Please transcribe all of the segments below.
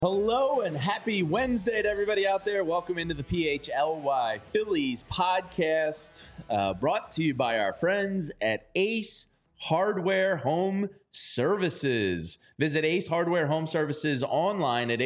Hello and happy Wednesday to everybody out there. Welcome into the PHLY Phillies podcast, brought to you by our friends at Ace Hardware Home Services. Visit Ace Hardware Home Services online at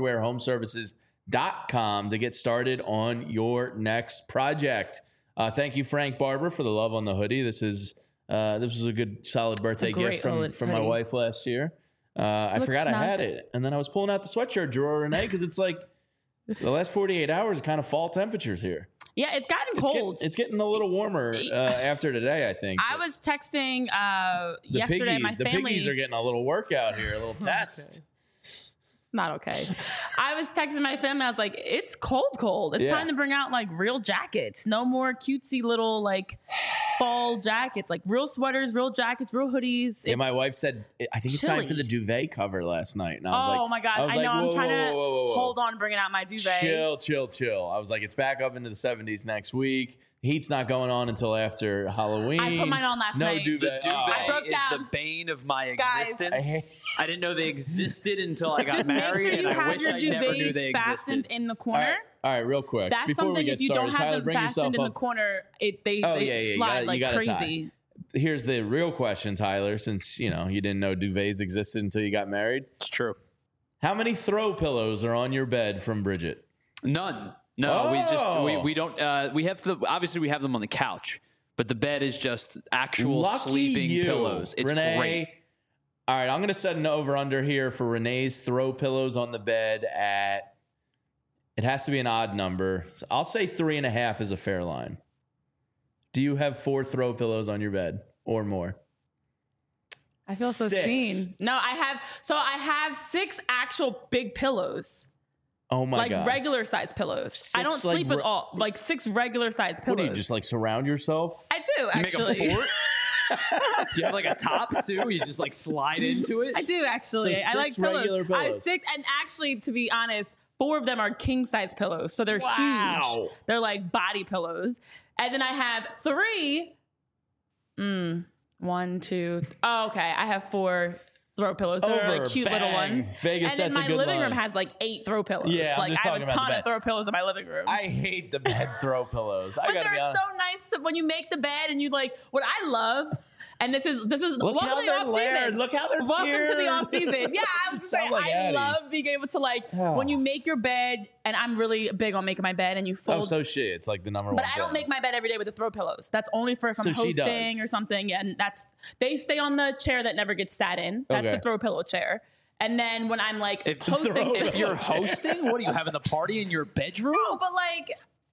acehardwarehomeservices.com to get started on your next project. Thank you, Frank Barber, for the love on the hoodie. This was a good, solid birthday gift from my wife last year. I forgot I had it. And then I was pulling out the sweatshirt drawer, Renee, because it's like the last 48 hours, kind of fall temperatures here. Yeah, it's gotten cold. It's getting a little warmer after today, I think. I was texting yesterday, my family. The piggies are getting a little workout here, a little test. Not okay. I was texting my family. I was like, it's cold. It's time to bring out like real jackets. No more cutesy little like fall jackets, like real sweaters, real jackets, real hoodies. Yeah, my wife said, I think it's time for the duvet cover last night. And I was oh my God. I know. I'm trying to hold on bringing out my duvet. Chill. I was like, it's back up into the 70s next week. Heat's not going on until after Halloween. I put mine on last night. No duvet. The duvet is the bane of my existence. I didn't know they existed until I got married, sure and I wish I never knew they fastened existed. In the corner. All right, real quick. That's before something we get if you started, don't have Tyler, them fastened in the corner, they slide like crazy. Here's the real question, Tyler, since you didn't know duvets existed until you got married. It's true. How many throw pillows are on your bed from Bridget? None. No, we don't. We have obviously we have them on the couch, but the bed is just actual sleeping pillows. It's Renee, great. All right, I'm going to set an over-under here for Renee's throw pillows on the bed at, it has to be an odd number. So I'll say 3.5 is a fair line. Do you have 4 throw pillows on your bed or more? I feel so 6. seen. No, I have 6 actual big pillows. Oh my God. Like regular size pillows. I don't sleep with all, like 6 regular size pillows. What do you just like surround yourself? I do, actually. Make a fort? Do you have like a top too? You just like slide into it? I do, actually. So 6 I like regular pillows. I have 6, and actually, to be honest, 4 of them are king size pillows. So they're huge. They're like body pillows. And then I have 3. 1, 2. Oh, okay. I have 4 throw pillows. They're like cute little ones. Vegas, and then my living room line. has like 8 throw pillows. Yeah, like I have a ton of throw pillows in my living room. I hate the bed throw pillows. But they're so nice when you make the bed and you like what I love. And this is Look how they're layered. Look how they're welcome to the off season. Yeah, I was saying I love being able to when you make your bed, and I'm really big on making my bed and you fold. Oh, so shit. It's like the number one. But I don't make my bed every day with the throw pillows. That's only for if I'm hosting or something. And they stay on the chair that never gets sat in. That's the throw pillow chair. And then when I'm like hosting, if you're hosting, what are you having the party in your bedroom? No, but like.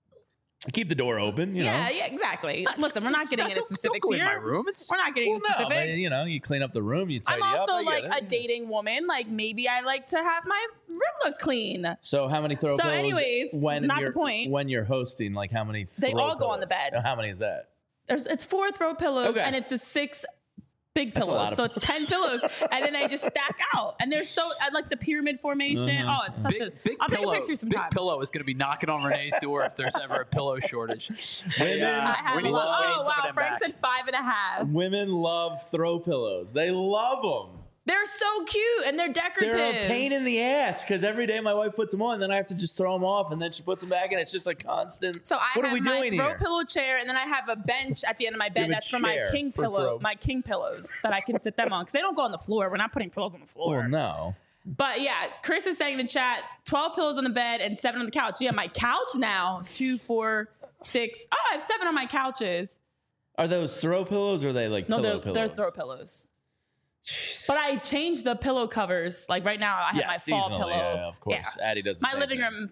Keep the door open, you know. Yeah, exactly. Listen, we're not getting into specifics here. In my room. We're not getting into specifics. But, you clean up the room, you tidy up. I'm also like a dating woman. Like maybe I like to have my room look clean. So how many throw pillows? So anyways, not the point. When you're hosting, like how many throw They all pillows? go on the bed. How many is that? It's 4 throw pillows and it's a 6 big pillows. So it's 10 pillows. And then I just stack out. And they're so, I like the pyramid formation. Oh, it's such I'll take a picture sometime. Big Pillow is going to be knocking on Renee's door if there's ever a pillow shortage. Women, we need some Frank back. said 5.5. Women love throw pillows. They love them. They're so cute and they're decorative. They're a pain in the ass because every day my wife puts them on, then I have to just throw them off, and then she puts them back, and it's just a constant. So what are we doing my throw here? pillow chair, and then I have a bench at the end of my bed that's for my king pillow, my king pillows that I can sit them on because they don't go on the floor. We're not putting pillows on the floor. Well, no. But yeah, Chris is saying in the chat, 12 pillows on the bed and 7 on the couch. Yeah, my couch now, 2, 4, 6. Oh, I have 7 on my couches. Are those throw pillows or are they like pillow pillows? They're throw pillows. Jeez. But I changed the pillow covers. Like right now, I have my fall pillow. Yeah, of course. Yeah. Addie does the same living thing. room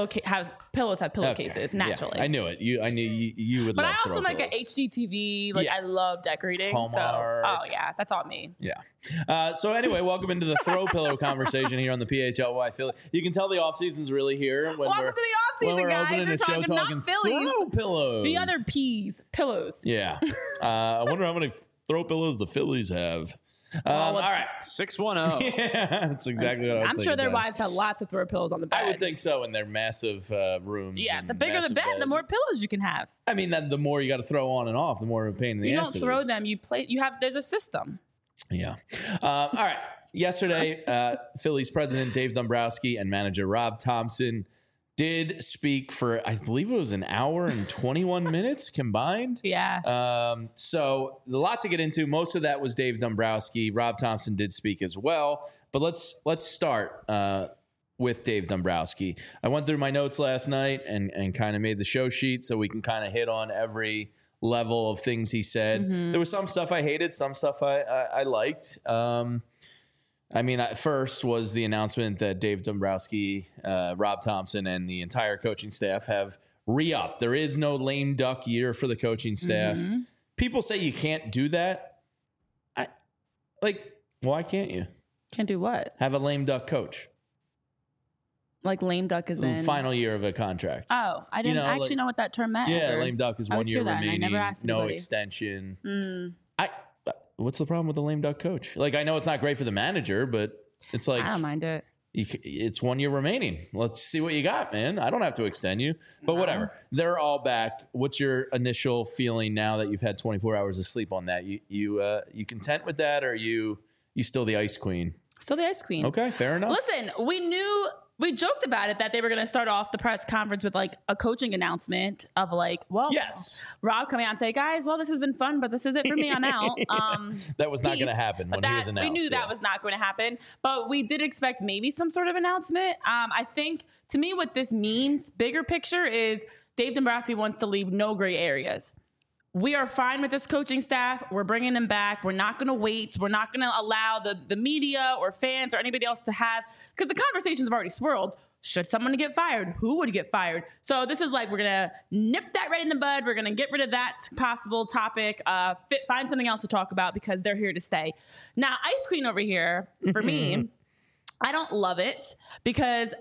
pillows have pillowcases naturally. Yeah, I knew it. I knew you would. But love I also like an HGTV. Like I love decorating. Hallmark. So, yeah, that's all me. Yeah. So anyway, welcome into the throw pillow conversation here on the PHLY Philly. You can tell the off season's really here. Welcome to the off season, guys. We're talking Phillies. Throw pillows. The other P's, pillows. Yeah. I wonder how many throw pillows the Phillies have. All right, 610. Yeah, that's exactly what I was thinking. I'm sure their wives have lots of throw pillows on the bed. I would think so in their massive rooms. Yeah, the bigger the bed, the more pillows you can have. I mean, the more you got to throw on and off, the more of a pain in the ass. You don't throw them. You play. You have. There's a system. Yeah. All right. yesterday, Phillies president Dave Dombrowski and manager Rob Thomson did speak for, I believe it was an hour and 21 minutes combined. Yeah. So a lot to get into. Most of that was Dave Dombrowski. Rob Thomson did speak as well. But let's start with Dave Dombrowski. I went through my notes last night and kind of made the show sheet so we can kind of hit on every level of things he said. Mm-hmm. There was some stuff I hated, some stuff I liked. First was the announcement that Dave Dombrowski, Rob Thomson, and the entire coaching staff have re-upped. There is no lame duck year for the coaching staff. Mm-hmm. People say you can't do that. Why can't you? Can't do what? Have a lame duck coach. Like lame duck is in? Final year of a contract. Oh, I didn't actually know what that term meant. Yeah, lame duck is 1 year remaining, no extension. What's the problem with the lame duck coach? I know it's not great for the manager, but it's like... I don't mind it. It's 1 year remaining. Let's see what you got, man. I don't have to extend you, but whatever. They're all back. What's your initial feeling now that you've had 24 hours of sleep on that? You content with that, or you still the ice queen? Still the ice queen. Okay, fair enough. Listen, we joked about it that they were going to start off the press conference with a coaching announcement of yes, Rob coming out and say, guys, well, this has been fun, but this is it for me. I'm out. That was not going to happen when he was announced. We knew that was not going to happen, but we did expect maybe some sort of announcement. I think to me, what this means, bigger picture, is Dave Dombrowski wants to leave no gray areas. We are fine with this coaching staff. We're bringing them back. We're not going to wait. We're not going to allow the media or fans or anybody else to have, because the conversations have already swirled. Should someone get fired? Who would get fired? So this is we're going to nip that right in the bud. We're going to get rid of that possible topic, find something else to talk about because they're here to stay. Now, Ice Queen over here, for me, I don't love it because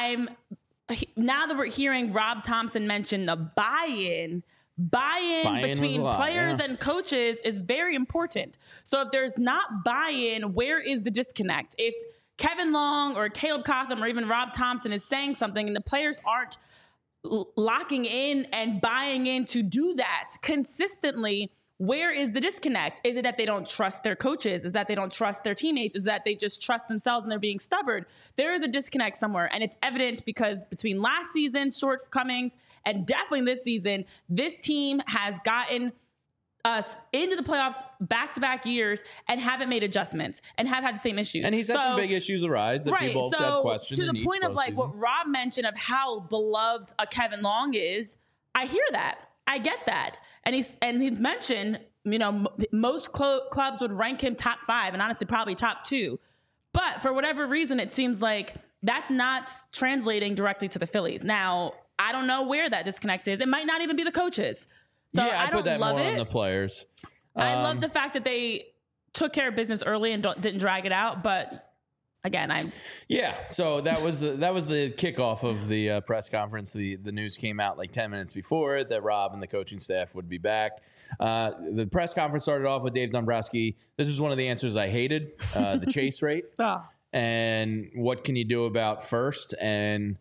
now that we're hearing Rob Thomson mention the buy-in between players and coaches is very important. So if there's not buy-in, where is the disconnect? If Kevin Long or Caleb Cotham or even Rob Thomson is saying something and the players aren't locking in and buying in to do that consistently, where is the disconnect? Is it that they don't trust their coaches? Is that they don't trust their teammates? Is that they just trust themselves and they're being stubborn? There is a disconnect somewhere, and it's evident because between last season's shortcomings and definitely this season, this team has gotten us into the playoffs back-to-back years and haven't made adjustments and have had the same issues. And he's had some big issues arise that people have questioned. To the point of what Rob mentioned of how beloved a Kevin Long is, I hear that. I get that. And he's mentioned, most clubs would rank him top 5 and honestly probably top 2. But for whatever reason, it seems like that's not translating directly to the Phillies. Now, I don't know where that disconnect is. It might not even be the coaches. So I don't put that love more it. on the players. I love the fact that they took care of business early and didn't drag it out. But again, so that was the kickoff of the press conference. The news came out 10 minutes before it that Rob and the coaching staff would be back. The press conference started off with Dave Dombrowski. This was one of the answers I hated, the chase rate. And what can you do about first? And,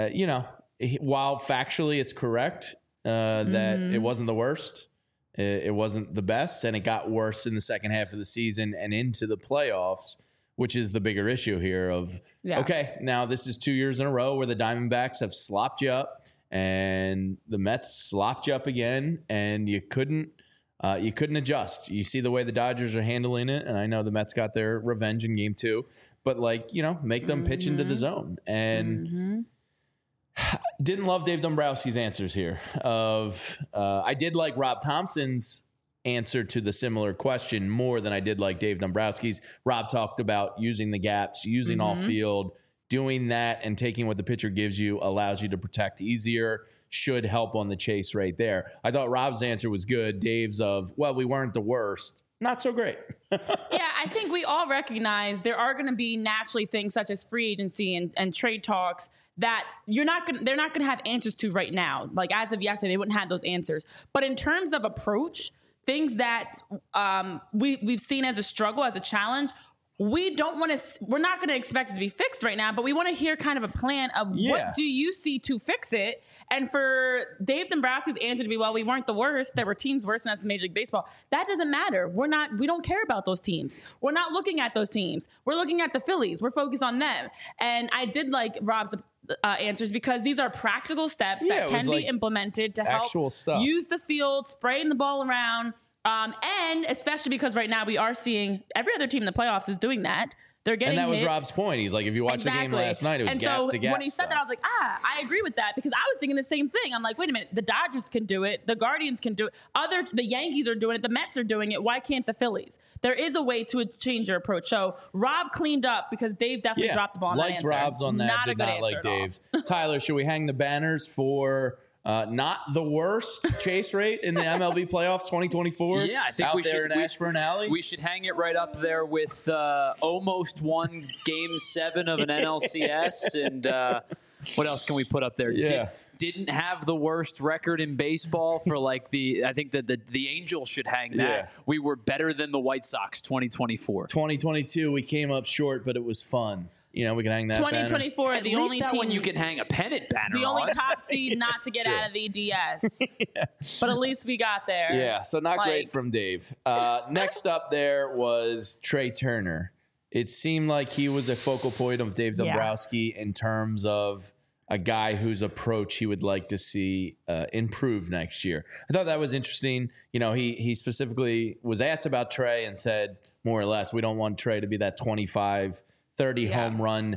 while factually it's correct that it wasn't the worst, it wasn't the best, and it got worse in the second half of the season and into the playoffs, which is the bigger issue here of, okay, now this is 2 years in a row where the Diamondbacks have slopped you up and the Mets slopped you up again, and you couldn't adjust. You see the way the Dodgers are handling it, and I know the Mets got their revenge in game 2, but make them pitch into the zone. And didn't love Dave Dombrowski's answers here. I did like Rob Thompson's answer to the similar question more than I did like Dave Dombrowski's. Rob talked about using the gaps, using off field, doing that and taking what the pitcher gives you allows you to protect easier, should help on the chase right there. I thought Rob's answer was good. Dave's we weren't the worst. Not so great. Yeah, I think we all recognize there are going to be naturally things such as free agency and trade talks that they're not going to have answers to right now. As of yesterday, they wouldn't have those answers. But in terms of approach, things that we've seen as a struggle, as a challenge, we're not going to expect it to be fixed right now, but we want to hear kind of a plan of what do you see to fix it? And for Dave Dombrowski's answer to be, well, we weren't the worst. There were teams worse than us in Major League Baseball. That doesn't matter. We don't care about those teams. We're not looking at those teams. We're looking at the Phillies. We're focused on them. And I did like Rob's answers because these are practical steps that can be implemented to help use the field, spraying the ball around. And especially because right now we are seeing every other team in the playoffs is doing that. They're getting hits. And that was hits. Rob's point. He's like, if you watch the game last night, it was gap to gap. When he said that, I was like, I agree with that because I was thinking the same thing. I'm like, wait a minute, the Dodgers can do it, the Guardians can do it, the Yankees are doing it, the Mets are doing it. Why can't the Phillies? There is a way to change your approach. So Rob cleaned up because Dave definitely dropped the ball on that answer. Liked Rob's on that, did not like Dave's. Tyler, should we hang the banners for not the worst chase rate in the MLB playoffs 2024? Yeah, I think out there in Ashburn Alley. We should hang it right up there with almost won Game 7 of an NLCS. And what else can we put up there? Yeah. Didn't have the worst record in baseball for I think that the Angels should hang that. Yeah. We were better than the White Sox 2024. 2022, we came up short, but it was fun. You know, we can hang that 2024, banner. the only team when you can hang a pennant banner. The only top seed not to get out of the DS. But at least we got there. Yeah, so not great from Dave. Next up there was Trey Turner. It seemed like he was a focal point of Dave Dombrowski in terms of a guy whose approach he would like to see improve next year. I thought that was interesting. You know, he specifically was asked about Trey and said, more or less, we don't want Trey to be that 25 30 home run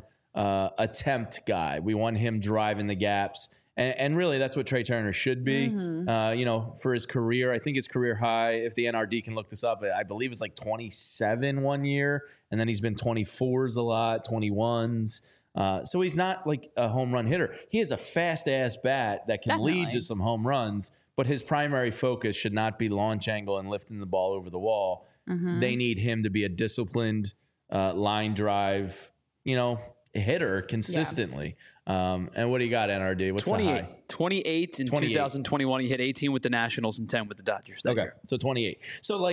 attempt guy. We want him driving the gaps. And really, that's what Trey Turner should be. Mm-hmm. You know, for his career, I think his career high, if the NRD can look this up, I believe it's like 27 one year. And then he's been 24s a lot, 21s. So he's not like a home run hitter. He has a fast-ass bat that can lead to some home runs. But his primary focus should not be launch angle and lifting the ball over the wall. Mm-hmm. They need him to be a disciplined line drive, hitter consistently. And what do you got, NRD? What's 28. The high? 28 in 2021. He hit 18 with the Nationals and 10 with the Dodgers that year. So 28. So,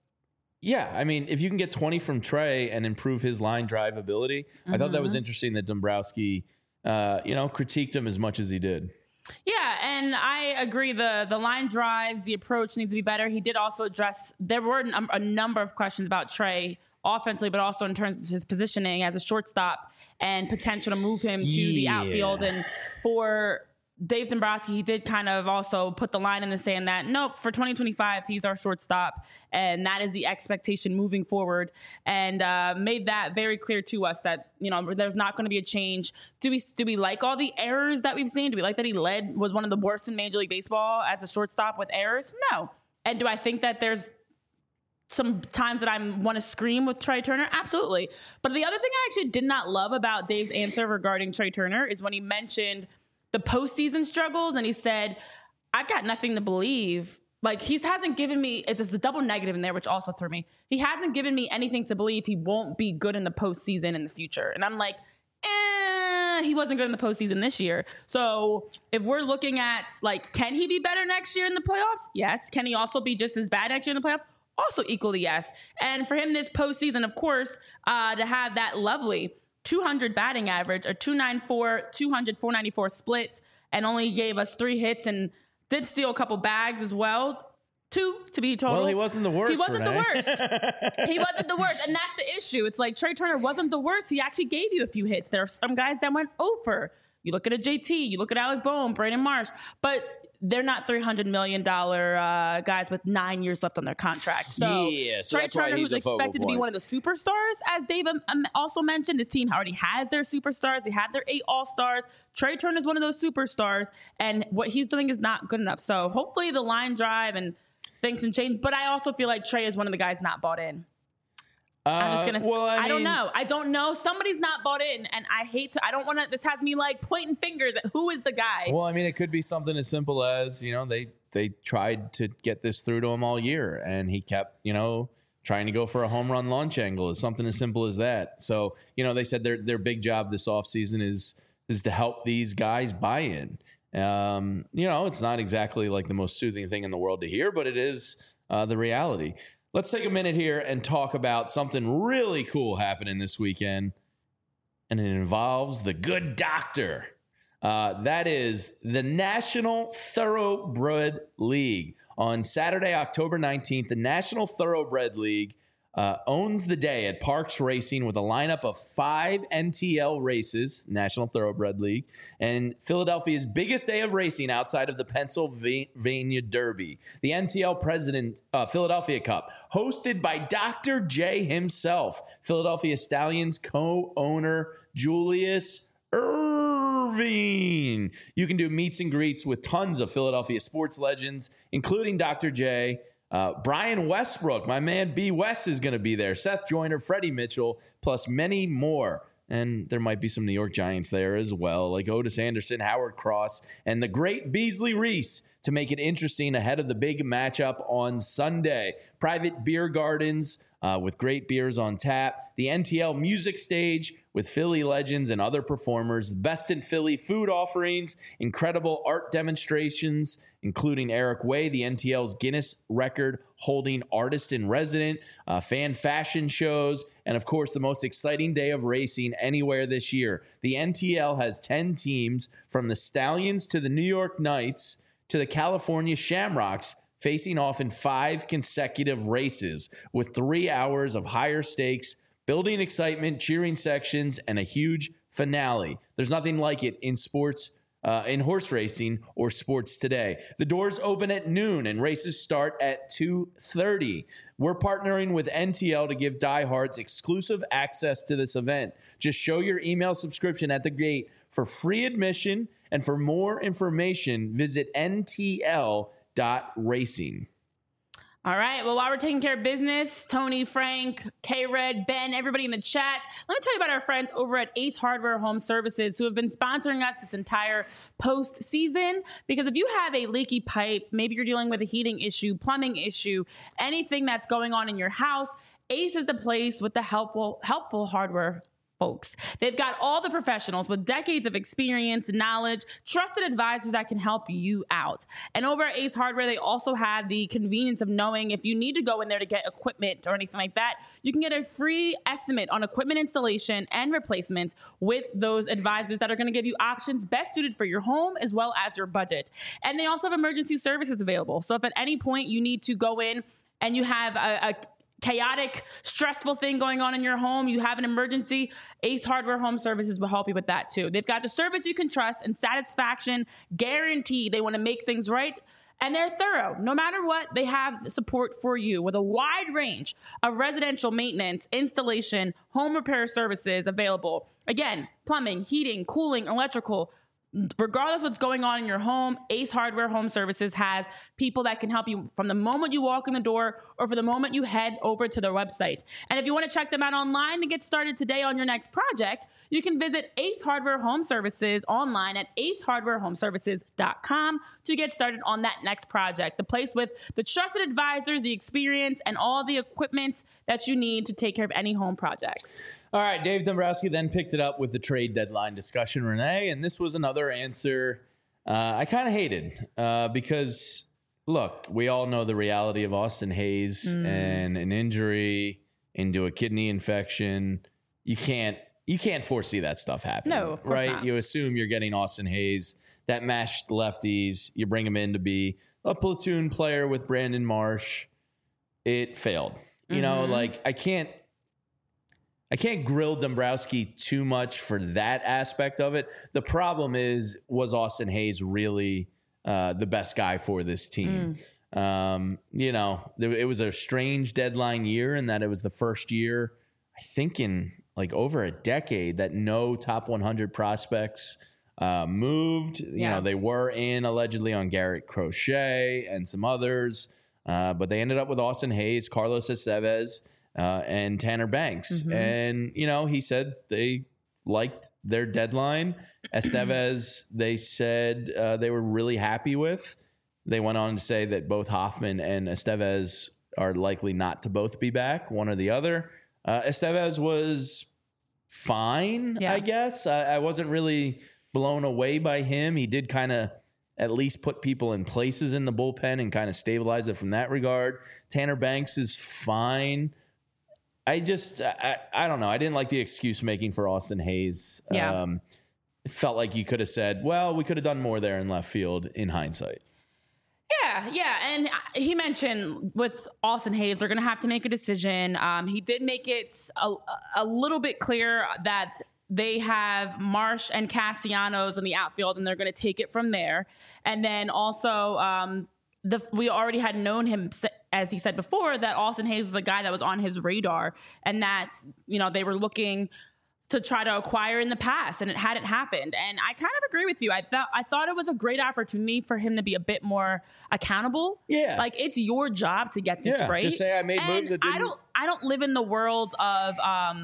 if you can get 20 from Trey and improve his line drive ability, I thought that was interesting that Dombrowski, critiqued him as much as he did. Yeah, and I agree. The line drives, the approach needs to be better. He did also address, there were a number of questions about Trey offensively, but also in terms of his positioning as a shortstop and potential to move him to the outfield. And for Dave Dombrowski, he did kind of also put the line in the sand that, nope, for 2025, he's our shortstop. And that is the expectation moving forward. And made that very clear to us that, there's not going to be a change. Do we like all the errors that we've seen? Do we like that he was one of the worst in Major League Baseball as a shortstop with errors? No. And do I think that there's some times that I want to scream with Trey Turner? Absolutely. But the other thing I actually did not love about Dave's answer regarding Trey Turner is when he mentioned the postseason struggles, and he said, I've got nothing to believe. Like, he hasn't given me, there's a double negative in there, which also threw me. He hasn't given me anything to believe he won't be good in the postseason in the future. And I'm like, he wasn't good in the postseason this year. So if we're looking at, can he be better next year in the playoffs? Yes. Can he also be just as bad next year in the playoffs? Also equally yes. And for him this postseason, of course, to have that lovely 200 batting average, a 294, 200, 494 split, and only gave us 3 hits and did steal a couple bags as well. 2 to be total. Well, he wasn't the worst. He wasn't the worst. He wasn't the worst. And that's the issue. It's like Trey Turner wasn't the worst. He actually gave you a few hits. There are some guys that went over. You look at a JT, you look at Alec Bohm, Brandon Marsh, but they're not $300 million guys with 9 years left on their contract. So, Trey Turner, who's expected to be one of the superstars, as Dave also mentioned, this team already has their superstars. They have their 8 All-Stars. Trey Turner is one of those superstars, and what he's doing is not good enough. So hopefully the line drive and things can change. But I also feel like Trey is one of the guys not bought in. I'm just going to say, I don't know. I don't know. Somebody's not bought in, and I don't want to, this has me pointing fingers at who is the guy. Well, it could be something as simple as, they tried to get this through to him all year, and he kept, trying to go for a home run launch angle. It's something as simple as that. So, they said their big job this offseason is to help these guys buy in. It's not exactly the most soothing thing in the world to hear, but it is the reality. let's take a minute here and talk about something really cool happening this weekend, and it involves the Good Doctor. That is the National Thoroughbred League. On Saturday, October 19th, the National Thoroughbred League owns the day at Parks Racing with a lineup of 5 NTL races, National Thoroughbred League, and Philadelphia's biggest day of racing outside of the Pennsylvania Derby, the NTL President Philadelphia Cup, hosted by Dr. J himself, Philadelphia Stallions co-owner Julius Irving. You can do meets and greets with tons of Philadelphia sports legends, including Dr. J. Brian Westbrook, my man B. West is going to be there. Seth Joyner, Freddie Mitchell, plus many more. And there might be some New York Giants there as well, like Otis Anderson, Howard Cross, and the great Beasley Reese to make it interesting ahead of the big matchup on Sunday. Private beer gardens with great beers on tap. The NTL Music Stage with Philly legends and other performers. Best in Philly food offerings. Incredible art demonstrations, including Eric Way, the NTL's Guinness record holding artist in resident. Fan fashion shows. And of course, the most exciting day of racing anywhere this year. The NTL has 10 teams from the Stallions to the New York Knights to the California Shamrocks, facing off in 5 consecutive races with 3 hours of higher stakes, building excitement, cheering sections, and a huge finale. There's nothing like it in sports, in horse racing or sports today. The doors open at noon and races start at 2:30. We're partnering with NTL to give diehards exclusive access to this event. Just show your email subscription at the gate for free admission, and for more information, visit ntl.racing. All right. Well, while we're taking care of business, Tony, Frank, K-Red, Ben, everybody in the chat, let me tell you about our friends over at Ace Hardware Home Services who have been sponsoring us this entire postseason. Because if you have a leaky pipe, maybe you're dealing with a heating issue, plumbing issue, anything that's going on in your house, Ace is the place with the helpful hardware folks. They've got all the professionals with decades of experience, knowledge, trusted advisors that can help you out. And over at Ace Hardware, they also have the convenience of knowing if you need to go in there to get equipment or anything like that, you can get a free estimate on equipment installation and replacements with those advisors that are going to give you options best suited for your home as well as your budget. And they also have emergency services available. So if at any point you need to go in and you have a chaotic, stressful thing going on in your home, you have an emergency, Ace Hardware Home Services will help you with that too. They've got the service you can trust and satisfaction guaranteed. They want to make things right, and they're thorough. No matter what, they have the support for you with a wide range of residential maintenance, installation, home repair services available. Again, plumbing, heating, cooling, electrical. Regardless of what's going on in your home, Ace Hardware Home Services has people that can help you from the moment you walk in the door or for the moment you head over to their website. And if you want to check them out online and get started today on your next project, you can visit Ace Hardware Home Services online at acehardwarehomeservices.com to get started on that next project. The place with the trusted advisors, the experience, and all the equipment that you need to take care of any home projects. All right, Dave Dombrowski then picked it up with the trade deadline discussion, Renee, and this was another answer I kind of hated because, look, we all know the reality of Austin Hayes and an injury into a kidney infection. You can't foresee that stuff happening. No, of course right? not. You assume you're getting Austin Hayes, that mashed lefties. You bring him in to be a platoon player with Brandon Marsh. It failed. You know, like I can't grill Dombrowski too much for that aspect of it. The problem was Austin Hayes really the best guy for this team? You know, it was a strange deadline year in that it was the first year, I think in like over a decade, that no top 100 prospects moved. You know, they were in allegedly on Garrett Crochet and some others, but they ended up with Austin Hayes, Carlos Estevez, and Tanner Banks. And, you know, he said they liked their deadline. Estevez, they said they were really happy with. They went on to say that both Hoffman and Estevez are likely not to both be back, one or the other. Estevez was fine, I guess. I wasn't really blown away by him. He did kind of at least put people in places in the bullpen and kind of stabilize it from that regard. Tanner Banks is fine. I don't know. I didn't like the excuse making for Austin Hayes. Yeah. It felt like you could have said, well, we could have done more there in left field in hindsight. Yeah. And he mentioned with Austin Hayes, they're going to have to make a decision. He did make it a little bit clear that they have Marsh and Castellanos in the outfield, and they're going to take it from there. And then also we already had known him, as he said before, that Austin Hayes was a guy that was on his radar, and that, they were looking to try to acquire in the past, and it hadn't happened. And I kind of agree with you. I thought it was a great opportunity for him to be a bit more accountable. Yeah. Like, it's your job to get this right. Just say I made moves that didn't. I don't live in the world of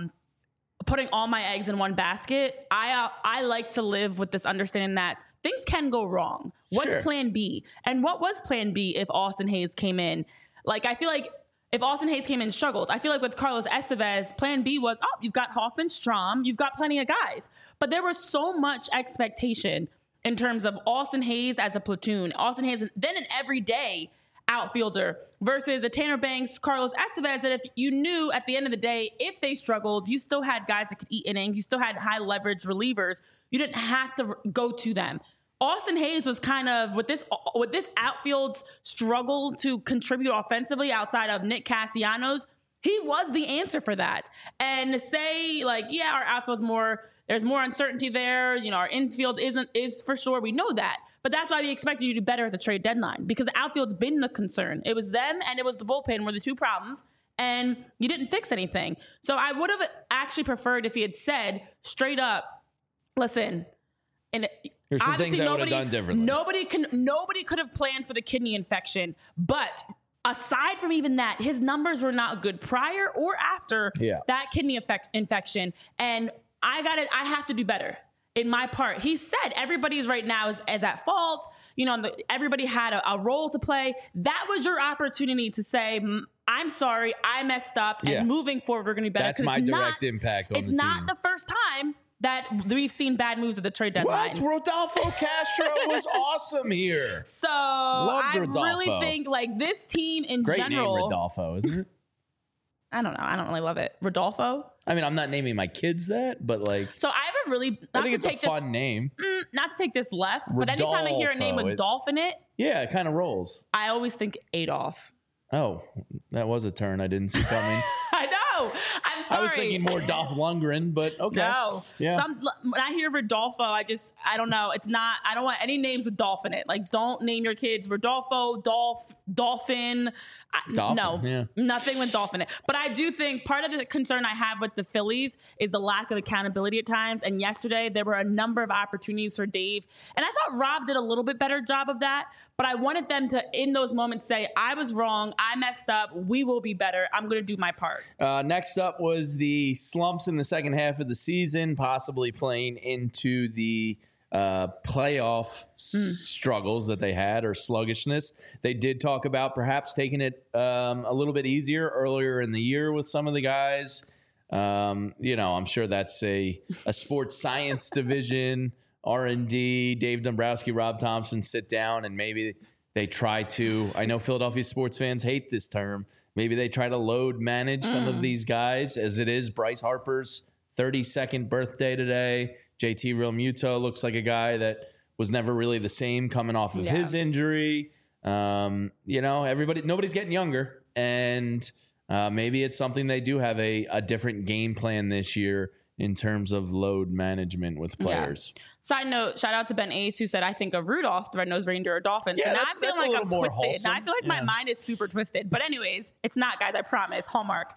putting all my eggs in one basket. I like to live with this understanding that things can go wrong. What's plan B? And what was plan B if Austin Hayes came in? Like, I feel like if Austin Hayes came in and struggled, I feel like with Carlos Estevez, plan B was, you've got Hoffman, Strahm, you've got plenty of guys. But there was so much expectation in terms of Austin Hayes as a platoon, Austin Hayes, then an everyday outfielder versus a Tanner Banks, Carlos Estevez, that if you knew at the end of the day, if they struggled, you still had guys that could eat innings, you still had high leverage relievers. You didn't have to go to them. Austin Hayes was kind of, with this outfield's struggle to contribute offensively outside of Nick Castellanos, he was the answer for that. And to say, like, yeah, our outfield's there's more uncertainty there. Our infield is for sure. We know that. But that's why we expected you to do better at the trade deadline, because the outfield's been the concern. It was them and it was the bullpen were the two problems, and you didn't fix anything. So I would have actually preferred if he had said straight up, listen, and here's some things I would have done differently. Nobody could have planned for the kidney infection. But aside from even that, his numbers were not good prior or after that kidney infection. And I have to do better in my part. He said everybody's right now is at fault. Everybody had a role to play. That was your opportunity to say, I'm sorry, I messed up, and moving forward, we're going to be better. That's my direct impact on the team. It's not the first time that we've seen bad moves at the trade deadline. What? Rodolfo Castro was awesome here. So I really think, like, this team in Great general. Great name, Rodolfo, isn't it? I don't know. I don't really love it. Rodolfo? I mean, I'm not naming my kids that, but like. So I have a really. I think it's a fun name. Not to take this left, Rodolfo, but anytime I hear a name with Dolph in it. Yeah, it kind of rolls. I always think Adolf. Oh, that was a turn I didn't see coming. I know. I'm sorry. I was thinking more Dolph Lundgren, but okay. No. Yeah. When I hear Rodolfo, I don't know. It's not, I don't want any names with Dolph in it. Like, don't name your kids Rodolfo, Dolphin. No, nothing with Dolph in it. But I do think part of the concern I have with the Phillies is the lack of accountability at times. And yesterday, there were a number of opportunities for Dave. And I thought Rob did a little bit better job of that. But I wanted them to, in those moments, say, I was wrong. I messed up. We will be better. I'm going to do my part. Next up was the slumps in the second half of the season, possibly playing into the playoff struggles that they had, or sluggishness. They did talk about perhaps taking it a little bit easier earlier in the year with some of the guys. I'm sure that's a sports science division, R&D, Dave Dombrowski, Rob Thompson sit down and maybe they try to, I know Philadelphia sports fans hate this term, maybe they try to load manage some of these guys, as it is Bryce Harper's 32nd birthday today. JT Realmuto looks like a guy that was never really the same coming off of his injury. Nobody's getting younger, and maybe it's something they do have a different game plan this year in terms of load management with players. Yeah. Side note, shout out to Ben Ace, who said, I think of Rudolph, the red-nosed reindeer, or Dolphins. Yeah, and that's I feel like I'm twisted. Wholesome. Now I feel like my mind is super twisted. But anyways, it's not, guys, I promise. Hallmark.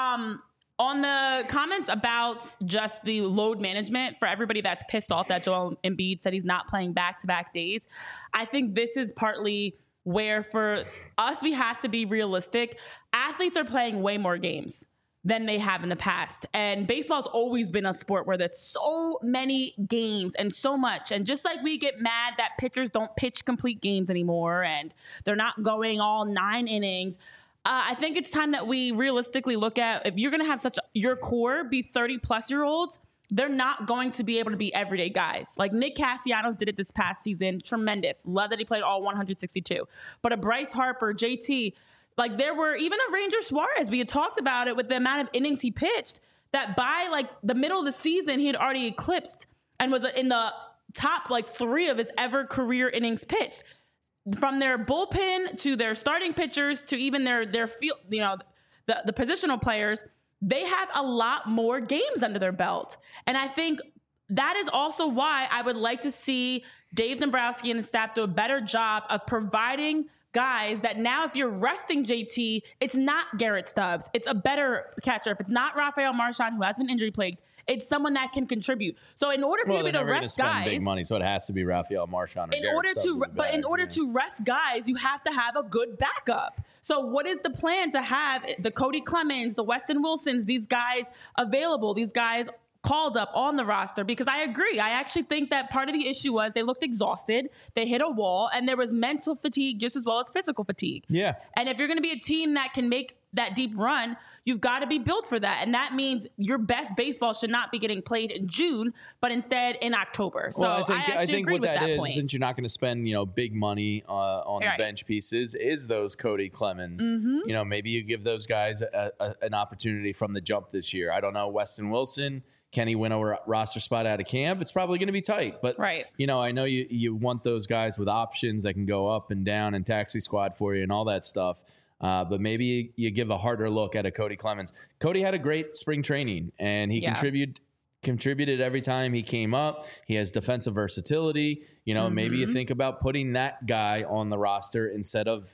On the comments about just the load management, for everybody that's pissed off that Joel Embiid said he's not playing back-to-back days, I think this is partly where, for us, we have to be realistic. Athletes are playing way more games than they have in the past. And baseball's always been a sport where there's so many games and so much. And just like we get mad that pitchers don't pitch complete games anymore and they're not going all 9 innings, I think it's time that we realistically look at, if you're going to have your core be 30-plus-year-olds, they're not going to be able to be everyday guys. Like Nick Castellanos did it this past season. Tremendous. Love that he played all 162. But a Bryce Harper, JT, like there were even a Ranger Suarez. We had talked about it with the amount of innings he pitched, that by like the middle of the season, he had already eclipsed and was in the top like 3 of his ever career innings pitched. From their bullpen to their starting pitchers to even their field, the positional players, they have a lot more games under their belt. And I think that is also why I would like to see Dave Dombrowski and the staff do a better job of providing guys that now if you're resting JT, it's not Garrett Stubbs. It's a better catcher. If it's not Rafael Marchand, who has been injury plagued, it's someone that can contribute. So in order for you to rest guys, big money, so it has to be Rafael Marchand. In order to rest guys, you have to have a good backup. So what is the plan to have the Cody Clemens, the Weston Wilsons, these guys available, these guys called up on the roster? Because I agree. I actually think that part of the issue was they looked exhausted. They hit a wall, and there was mental fatigue just as well as physical fatigue. Yeah. And if you're going to be a team that can make that deep run, you've got to be built for that. And that means your best baseball should not be getting played in June, but instead in October. So well, I think agree what with that is, point. Since you're not going to spend, big money on the bench pieces, is those Cody Clemens. Mm-hmm. Maybe you give those guys an opportunity from the jump this year. I don't know, Weston Wilson, can he win a roster spot out of camp? It's probably going to be tight. But, right. I know you want those guys with options that can go up and down and taxi squad for you and all that stuff. But maybe you give a harder look at a Cody Clemens. Cody had a great spring training, and he contributed every time he came up. He has defensive versatility. Maybe you think about putting that guy on the roster instead of,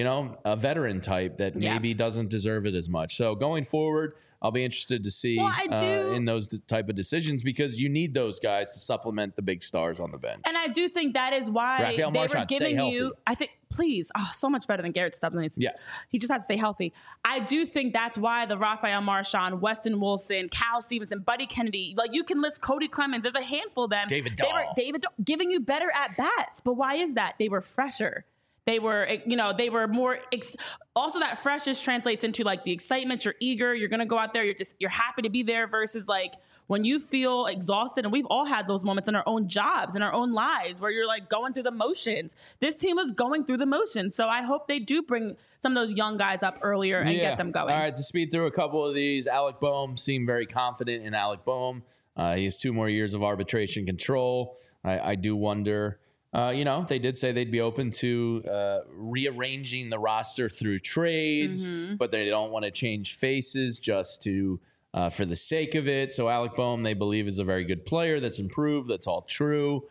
a veteran type that maybe doesn't deserve it as much. So going forward, I'll be interested to see in those type of decisions, because you need those guys to supplement the big stars on the bench. And I do think that is why Rafael Marchand, they were giving you, I think, please, so much better than Garrett Stubbs. Yes. He just has to stay healthy. I do think that's why the Rafael Marchand, Weston Wilson, Cal Stevenson, Buddy Kennedy, like you can list Cody Clemens. There's a handful of them. David Dahl giving you better at bats. But why is that? They were fresher. They were, they were more. Also, that freshness translates into like the excitement. You're eager. You're gonna go out there. You're happy to be there. Versus like when you feel exhausted, and we've all had those moments in our own jobs, in our own lives, where you're like going through the motions. This team was going through the motions, so I hope they do bring some of those young guys up earlier and get them going. All right, to speed through a couple of these, Alec Boehm seemed very confident in Alec Boehm. He has 2 more years of arbitration control. I do wonder. They did say they'd be open to rearranging the roster through trades, but they don't want to change faces just to for the sake of it. So Alec Boehm, they believe, is a very good player that's improved. That's all true.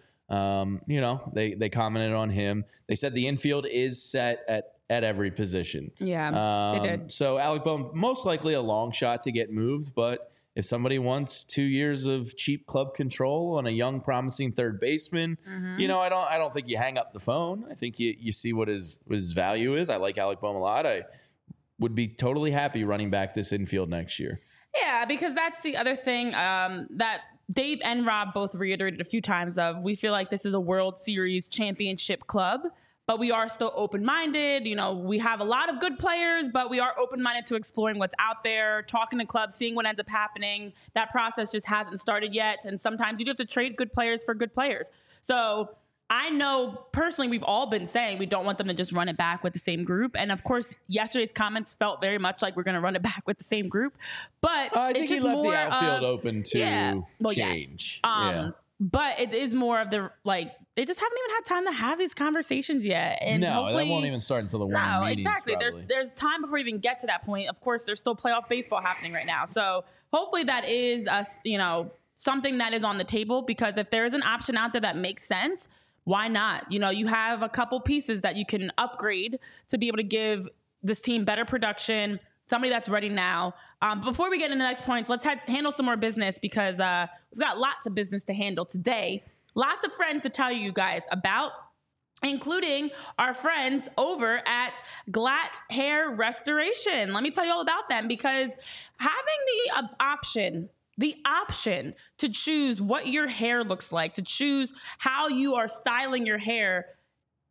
They commented on him. They said the infield is set at every position. Yeah, they did. So Alec Boehm, most likely a long shot to get moved, but if somebody wants 2 years of cheap club control on a young, promising third baseman, I don't think you hang up the phone. I think you see what his value is. I like Alec Boehm a lot. I would be totally happy running back this infield next year. Yeah, because that's the other thing that Dave and Rob both reiterated a few times of. We feel like this is a World Series championship club, but we are still open-minded. We have a lot of good players, but we are open-minded to exploring what's out there, talking to clubs, seeing what ends up happening. That process just hasn't started yet. And sometimes you do have to trade good players for good players. So I know personally we've all been saying we don't want them to just run it back with the same group. And of course, yesterday's comments felt very much like we're going to run it back with the same group. But I think it's just he left more the outfield open to change. Yes. But it is more of the, they just haven't even had time to have these conversations yet. And that won't even start until the winter meetings. Exactly. Probably. There's time before we even get to that point. Of course, there's still playoff baseball happening right now. So hopefully that is, something that is on the table, because if there is an option out there that makes sense, why not? You have a couple pieces that you can upgrade to be able to give this team better production, somebody that's ready now. Before we get into the next points, let's handle some more business, because we've got lots of business to handle today. Lots of friends to tell you guys about, including our friends over at Glatt Hair Restoration. Let me tell you all about them, because having the option to choose what your hair looks like, to choose how you are styling your hair,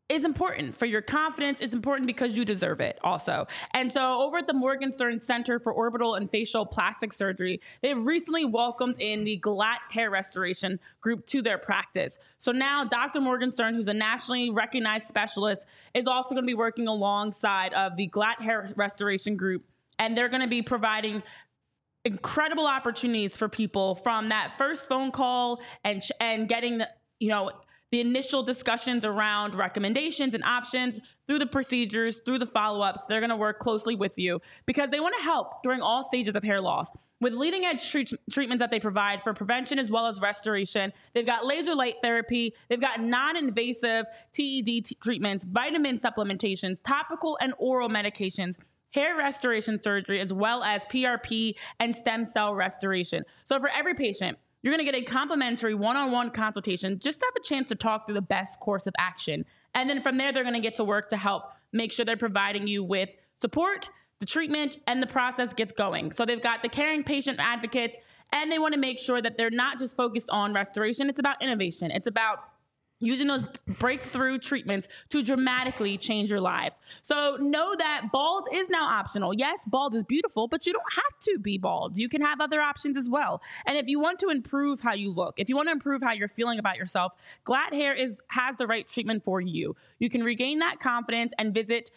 is important for your confidence. It's important because you deserve it also. And so over at the Morgenstern Center for Orbital and Facial Plastic Surgery, they've recently welcomed in the Glatt Hair Restoration group to their practice. So now Dr. Morgenstern, who's a nationally recognized specialist, is also going to be working alongside of the Glatt Hair Restoration group. And they're going to be providing incredible opportunities for people from that first phone call and getting the initial discussions around recommendations and options through the procedures, through the follow-ups. They're going to work closely with you because they want to help during all stages of hair loss. With leading edge treatments that they provide for prevention as well as restoration, they've got laser light therapy, they've got non-invasive TED treatments, vitamin supplementations, topical and oral medications, hair restoration surgery, as well as PRP and stem cell restoration. So for every patient, you're going to get a complimentary one-on-one consultation just to have a chance to talk through the best course of action. And then from there, they're going to get to work to help make sure they're providing you with support, the treatment, and the process gets going. So they've got the caring patient advocates, and they want to make sure that they're not just focused on restoration. It's about innovation. It's about using those breakthrough treatments to dramatically change your lives. So know that bald is now optional. Yes, bald is beautiful, but you don't have to be bald. You can have other options as well. And if you want to improve how you look, if you want to improve how you're feeling about yourself, Glatt Hair has the right treatment for you. You can regain that confidence and visit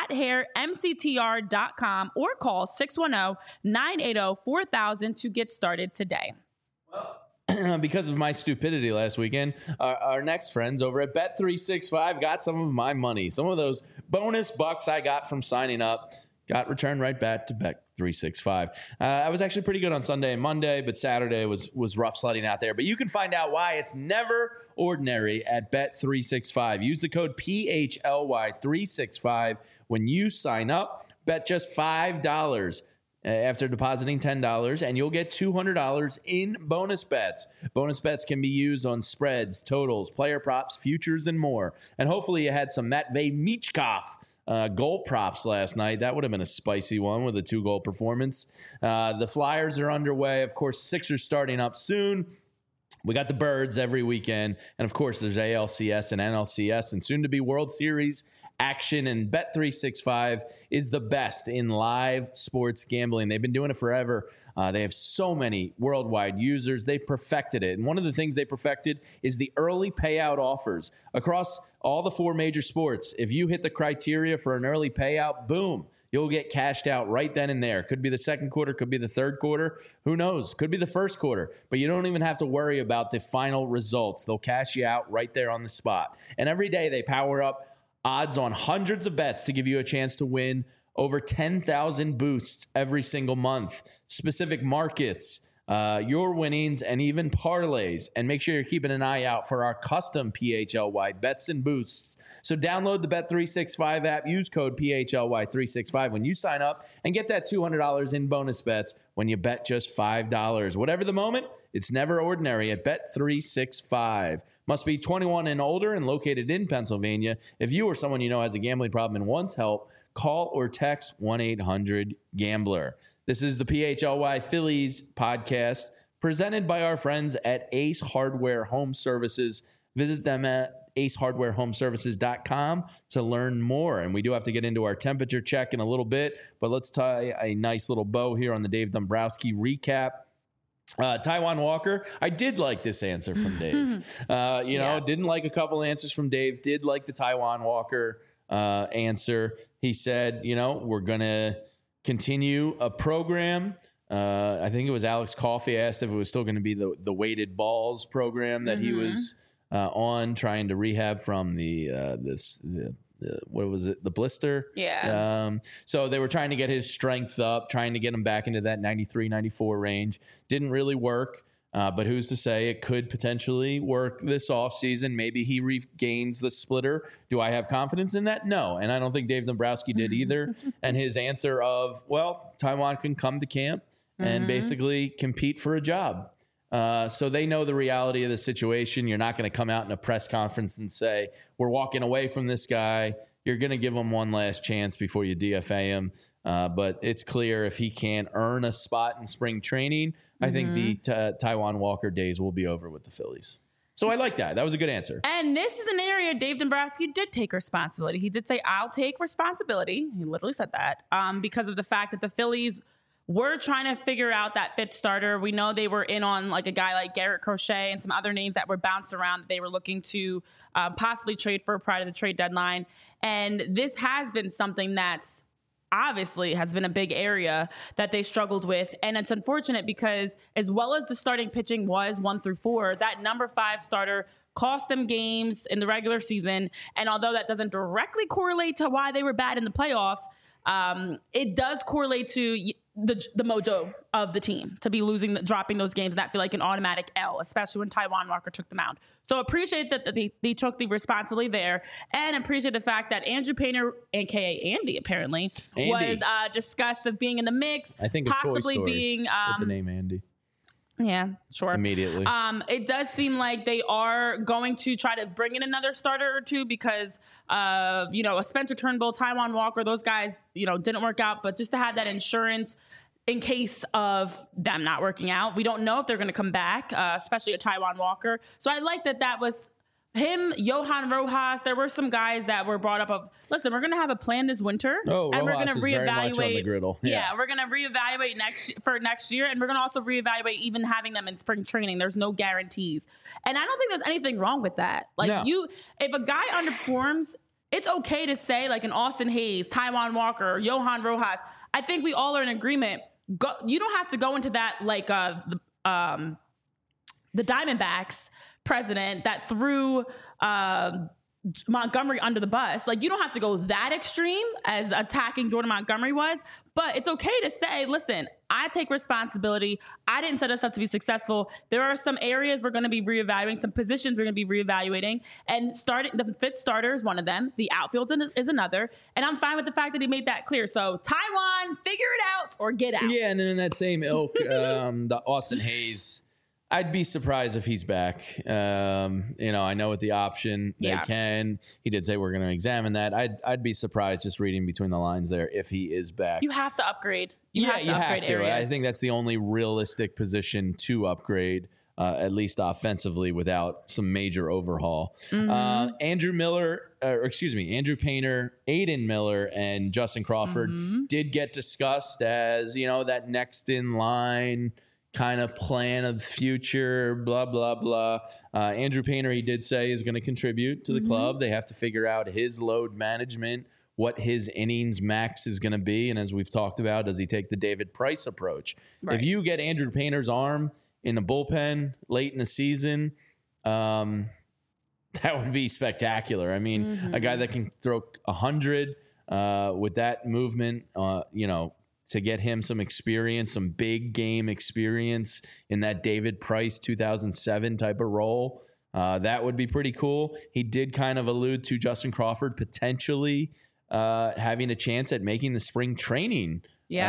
glatthairmctr.com or call 610-980-4000 to get started today. Well, because of my stupidity last weekend, our next friends over at Bet365 got some of my money. Some of those bonus bucks I got from signing up got returned right back to Bet365. I was actually pretty good on Sunday and Monday, but Saturday was rough sledding out there. But you can find out why it's never ordinary at Bet365. Use the code PHLY365 when you sign up. Bet just $5 after depositing $10, and you'll get $200 in bonus bets. Bonus bets can be used on spreads, totals, player props, futures, and more. And hopefully you had some Matvei Michkov goal props last night. That would have been a spicy one with a 2-goal performance. The Flyers are underway. Of course, Sixers starting up soon. We got the Birds every weekend. And, of course, there's ALCS and NLCS and soon-to-be World Series action, and Bet365 is the best in live sports gambling. They've been doing it forever. They have so many worldwide users. They perfected it. And one of the things they perfected is the early payout offers across all the 4 major sports. If you hit the criteria for an early payout, boom, you'll get cashed out right then and there. Could be the second quarter, could be the third quarter. Who knows? Could be the first quarter. But you don't even have to worry about the final results. They'll cash you out right there on the spot. And every day they power up odds on hundreds of bets to give you a chance to win over 10,000 boosts every single month. Specific markets, your winnings, and even parlays. And make sure you're keeping an eye out for our custom PHLY bets and boosts. So download the Bet365 app. Use code PHLY365 when you sign up and get that $200 in bonus bets when you bet just $5. Whatever the moment, it's never ordinary at Bet365. Must be 21 and older and located in Pennsylvania. If you or someone you know has a gambling problem and wants help, call or text 1-800-GAMBLER. This is the PHLY Phillies podcast presented by our friends at Ace Hardware Home Services. Visit them at acehardwarehomeservices.com to learn more. And we do have to get into our temperature check in a little bit, but let's tie a nice little bow here on the Dave Dombrowski recap. Taijuan Walker, I did like this answer from Dave. Didn't like a couple answers from Dave. Did like the Taijuan Walker answer. He said, we're going to continue a program. I think it was Alex Coffey asked if it was still going to be the weighted balls program that he was on, trying to rehab from what was it? The blister? Yeah. So they were trying to get his strength up, trying to get him back into that 93, 94 range. Didn't really work. But who's to say it could potentially work this offseason? Maybe he regains the splitter. Do I have confidence in that? No. And I don't think Dave Dombrowski did either. And his answer of, well, Taijuan can come to camp and basically compete for a job. So they know the reality of the situation. You're not going to come out in a press conference and say, we're walking away from this guy. You're going to give him one last chance before you DFA him. But it's clear if he can't earn a spot in spring training, I think the Taijuan Walker days will be over with the Phillies. So I like that. That was a good answer. And this is an area Dave Dombrowski did take responsibility. He did say, I'll take responsibility. He literally said that because of the fact that the Phillies were trying to figure out that fifth starter. We know they were in on like a guy like Garrett Crochet and some other names that were bounced around that they were looking to possibly trade for prior to the trade deadline. And this has been something that's obviously has been a big area that they struggled with. And it's unfortunate because as well as the starting pitching was 1 through 4, that number 5 starter cost them games in the regular season. And although that doesn't directly correlate to why they were bad in the playoffs, it does correlate to the mojo of the team to be dropping those games and that feel like an automatic L, especially when Taijuan Walker took the mound. So appreciate that they took the responsibility there, and appreciate the fact that Andrew Painter, aka Andy, apparently was discussed of being in the mix. I think possibly being with the name Andy. Yeah, sure. Immediately. It does seem like they are going to try to bring in another starter or two because a Spencer Turnbull, Taijuan Walker, those guys, didn't work out, but just to have that insurance in case of them not working out. We don't know if they're going to come back, especially a Taijuan Walker. So I like that was him, Johan Rojas. There were some guys that were brought up of, listen, we're going to have a plan this winter. Oh, and Rojas we're going to reevaluate. Very much on the griddle. Yeah, we're going to reevaluate next year. And we're going to also reevaluate even having them in spring training. There's no guarantees. And I don't think there's anything wrong with that. If a guy underperforms, it's okay to say like an Austin Hayes, Taijuan Walker, or Johan Rojas. I think we all are in agreement. You don't have to go into that like the Diamondbacks president that threw Montgomery under the bus. Like, you don't have to go that extreme as attacking Jordan Montgomery was, but it's okay to say, listen, I take responsibility. I didn't set us up to be successful. There are some areas we're going to be reevaluating, some positions we're going to be reevaluating, and starting the fifth starter is one of them. The outfield is another, and I'm fine with the fact that he made that clear. So Taijuan, figure it out or get out. Yeah, and then in that same ilk, the Austin Hayes, I'd be surprised if he's back. I know with the option they can. He did say we're going to examine that. I'd be surprised just reading between the lines there if he is back. You have to upgrade. You have to. Areas. I think that's the only realistic position to upgrade, at least offensively, without some major overhaul. Mm-hmm. Andrew Painter, Aiden Miller, and Justin Crawford did get discussed as that next in line kind of plan of the future, blah, blah, blah. Andrew Painter, he did say, is going to contribute to the club. They have to figure out his load management, what his innings max is going to be. And as we've talked about, does he take the David Price approach? Right. If you get Andrew Painter's arm in the bullpen late in the season, that would be spectacular. I mean, a guy that can throw 100 with that movement, to get him some experience, some big game experience in that David Price 2007 type of role. That would be pretty cool. He did kind of allude to Justin Crawford potentially having a chance at making the spring training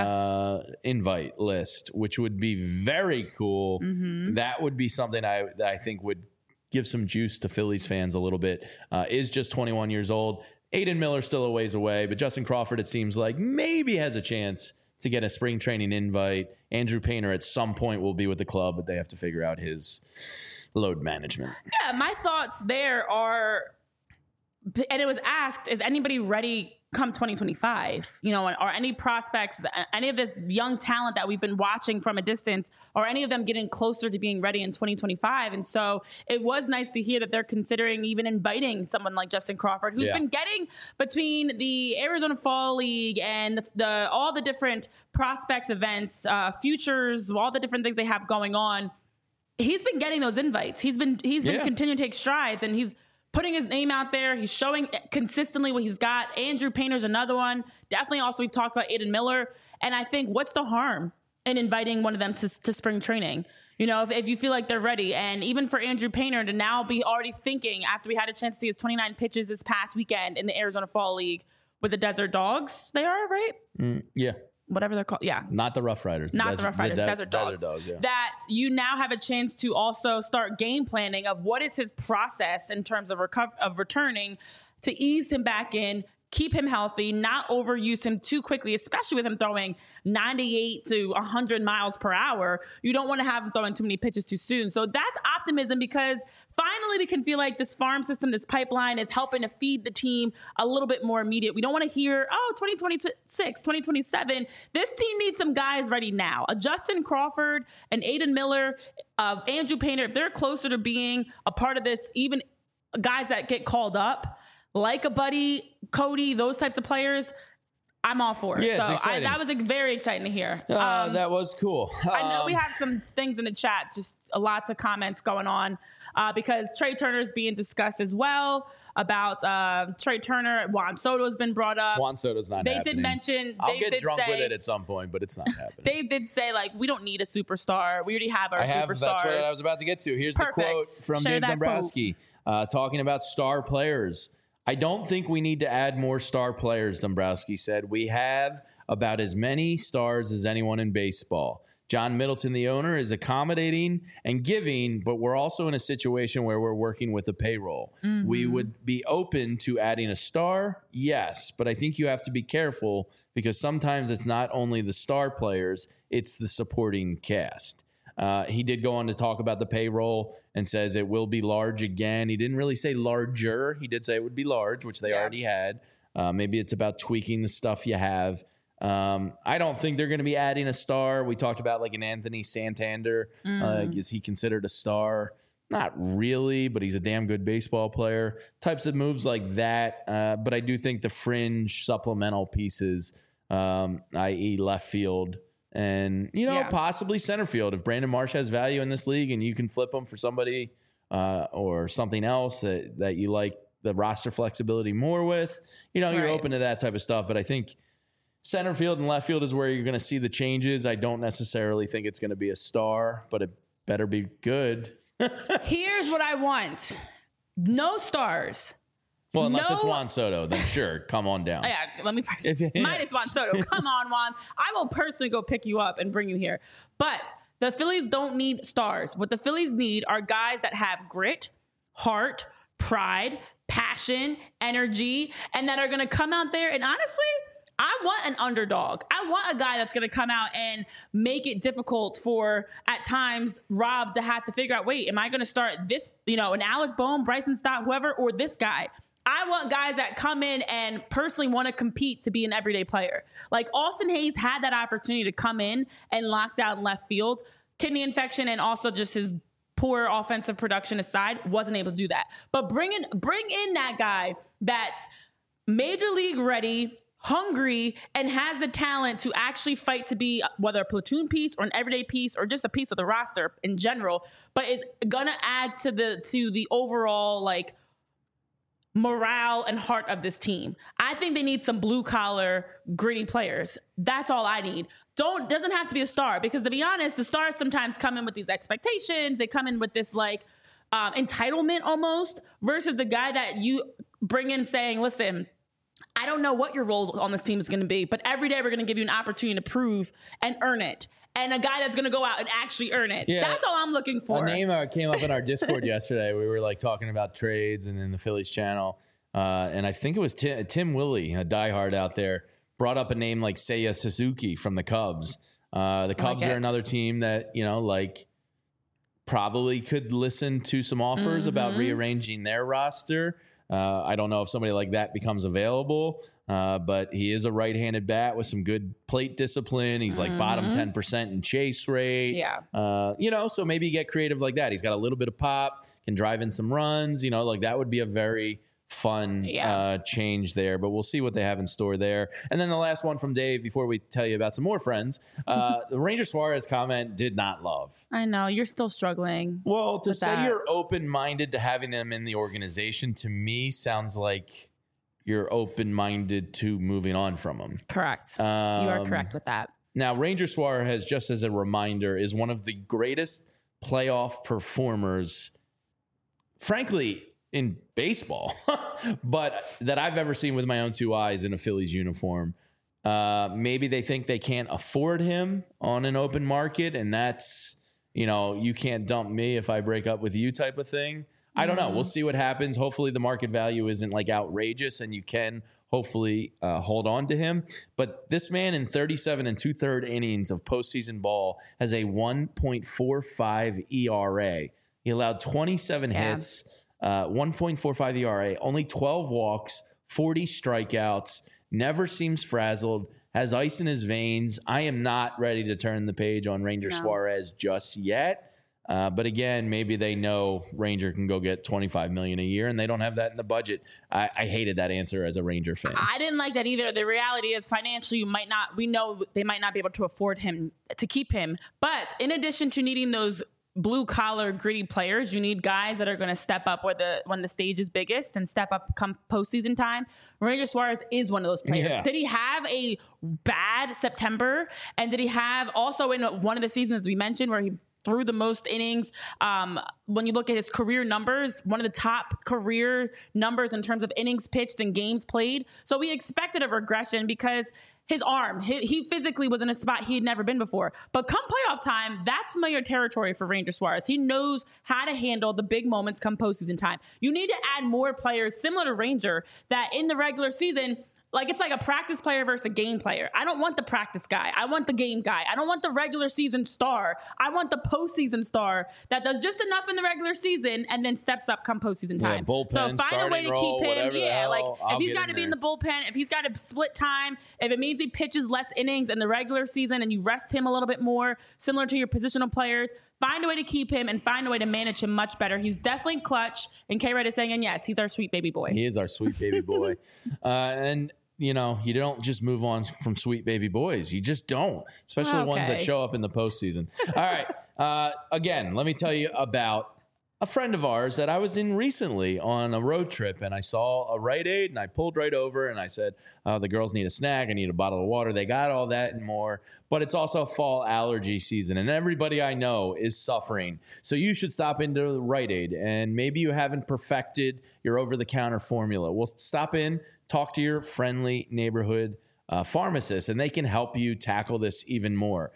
invite list, which would be very cool. That would be something that I think would give some juice to Phillies fans a little bit. Is just 21 years old. Aiden Miller still a ways away, but Justin Crawford, it seems like maybe has a chance to get a spring training invite. Andrew Painter at some point will be with the club, but they have to figure out his load management. Yeah, my thoughts there are, and it was asked, is anybody ready come 2025? Are any prospects, any of this young talent that we've been watching from a distance, are any of them getting closer to being ready in 2025? And so it was nice to hear that they're considering even inviting someone like Justin Crawford, who's been getting between the Arizona Fall League and all the different prospects events, futures, all the different things they have going on. He's been getting those invites. He's been continuing to take strides, and he's putting his name out there. He's showing consistently what he's got. Andrew Painter's another one. Definitely also we've talked about Aiden Miller. And I think what's the harm in inviting one of them to spring training? If you feel like they're ready. And even for Andrew Painter to now be already thinking, after we had a chance to see his 29 pitches this past weekend in the Arizona Fall League with the Desert Dogs, they are, right? Yeah. Whatever they're called. Yeah. Not the Rough Riders. Desert Dogs. Yeah. That you now have a chance to also start game planning of what is his process in terms of returning to ease him back in, keep him healthy, not overuse him too quickly, especially with him throwing 98 to 100 miles per hour. You don't want to have him throwing too many pitches too soon. So that's optimism, because finally we can feel like this farm system, this pipeline is helping to feed the team a little bit more immediate. We don't want to hear, 2026, 2027. This team needs some guys ready now. A Justin Crawford, an Aiden Miller, Andrew Painter, if they're closer to being a part of this, even guys that get called up, like a Buddy, Cody, those types of players, I'm all for it. Yeah, it's exciting. That was very exciting to hear. That was cool. I know we have some things in the chat, just lots of comments going on because Trey Turner is being discussed as well about Trey Turner. Juan Soto has been brought up. Juan Soto's not happening. They did mention. I'll get drunk with it at some point, but it's not happening. Dave did say, like, we don't need a superstar. We already have our superstars. That's what I was about to get to. Here's Perfect. the quote from Dave Dombrowski talking about star players. I don't think we need to add more star players, Dombrowski said. We have about as many stars as anyone in baseball. John Middleton, the owner, is accommodating and giving, but we're also in a situation where we're working with a payroll. Mm-hmm. We would be open to adding a star, yes, but I think you have to be careful because sometimes it's not only the star players, it's the supporting cast. He did go on to talk about the payroll and says it will be large again. He didn't really say larger. He did say it would be large, which they already had. Maybe it's about tweaking the stuff you have. I don't think they're going to be adding a star. We talked about like an Anthony Santander. Is he considered a star? Not really, but he's a damn good baseball player. Types of moves like that. But I do think the fringe supplemental pieces, i.e. left field, and, possibly center field. If Brandon Marsh has value in this league and you can flip him for somebody or something else that you like the roster flexibility more with, you're open to that type of stuff. But I think center field and left field is where you're going to see the changes. I don't necessarily think it's going to be a star, but it better be good. Here's what I want. No stars. Well, unless it's Juan Soto, then sure, come on down. Yeah, let me minus Juan Soto. Come on, Juan. I will personally go pick you up and bring you here. But the Phillies don't need stars. What the Phillies need are guys that have grit, heart, pride, passion, energy, and that are going to come out there. And honestly, I want an underdog. I want a guy that's going to come out and make it difficult for, at times, Rob to have to figure out, wait, am I going to start this, an Alec Bohm, Bryson Stott, whoever, or this guy? I want guys that come in and personally want to compete to be an everyday player. Like Austin Hayes had that opportunity to come in and lock down left field. Kidney infection and also just his poor offensive production aside, wasn't able to do that. But bring in that guy that's major league ready, hungry, and has the talent to actually fight to be whether a platoon piece or an everyday piece or just a piece of the roster in general, but it's gonna add to the overall like morale and heart of this team. I think they need some blue collar, gritty players. That's all I need. Doesn't have to be a star, because to be honest, the stars sometimes come in with these expectations. They come in with this like entitlement almost, versus the guy that you bring in saying, listen, I don't know what your role on this team is going to be, but every day we're going to give you an opportunity to prove and earn it. And a guy that's going to go out and actually earn it. Yeah, that's all I'm looking for. A name came up in our Discord yesterday. We were like talking about trades and in the Phillies channel. And I think it was Tim Willie, a diehard out there, brought up a name like Seiya Suzuki from the Cubs. The Cubs are another team that, probably could listen to some offers about rearranging their roster. I don't know if somebody like that becomes available, but he is a right-handed bat with some good plate discipline. He's like bottom 10% in chase rate. Yeah. So maybe you get creative like that. He's got a little bit of pop, can drive in some runs, like that would be a very fun change there, but we'll see what they have in store there. And then the last one from Dave before we tell you about some more friends, the Ranger Suarez comment did not love. I know you're still struggling. Well, to say you're open-minded to having them in the organization to me sounds like you're open-minded to moving on from them. Correct. You are correct with that. Now, Ranger Suarez, just as a reminder, is one of the greatest playoff performers, frankly, in baseball, but that I've ever seen with my own two eyes in a Phillies uniform. Maybe they think they can't afford him on an open market, and that's, you can't dump me if I break up with you type of thing. I don't know. We'll see what happens. Hopefully the market value isn't like outrageous and you can hopefully hold on to him. But this man in 37 2/3 innings of postseason ball has a 1.45 ERA. He allowed 27 hits, 1.45 ERA, only 12 walks, 40 strikeouts, never seems frazzled, has ice in his veins. I am not ready to turn the page on Ranger Suarez just yet. But again, maybe they know Ranger can go get $25 million a year, and they don't have that in the budget. I hated that answer as a Ranger fan. I didn't like that either. The reality is, financially, we know they might not be able to afford him to keep him. But in addition to needing those blue collar gritty players, you need guys that are going to step up when the stage is biggest and step up come postseason time. Ranger Suarez is one of those players. Did he have a bad September? And did he have also in one of the seasons we mentioned where he threw the most innings? When you look at his career numbers, one of the top career numbers in terms of innings pitched and games played. So we expected a regression because his arm, he physically was in a spot he had never been before. But come playoff time, that's familiar territory for Ranger Suarez. He knows how to handle the big moments come postseason time. You need to add more players similar to Ranger that in the regular season, like it's like a practice player versus a game player. I don't want the practice guy. I want the game guy. I don't want the regular season star. I want the postseason star that does just enough in the regular season and then steps up come postseason time. Bullpen, so find a way to keep him. If he's got to be in the bullpen, if he's got to split time, if it means he pitches less innings in the regular season and you rest him a little bit more, similar to your positional players, find a way to keep him and find a way to manage him much better. He's definitely clutch. And K-Red is saying, and yes, he's our sweet baby boy. He is our sweet baby boy. And you know, you don't just move on from sweet baby boys. You just don't, especially the ones that show up in the postseason. All right. Again, let me tell you about a friend of ours that I was in recently on a road trip, and I saw a Rite Aid, and I pulled right over, and I said, the girls need a snack. I need a bottle of water. They got all that and more, but it's also fall allergy season, and everybody I know is suffering. So you should stop into the Rite Aid, and maybe you haven't perfected your over-the-counter formula. Well, stop in, talk to your friendly neighborhood pharmacist, and they can help you tackle this even more.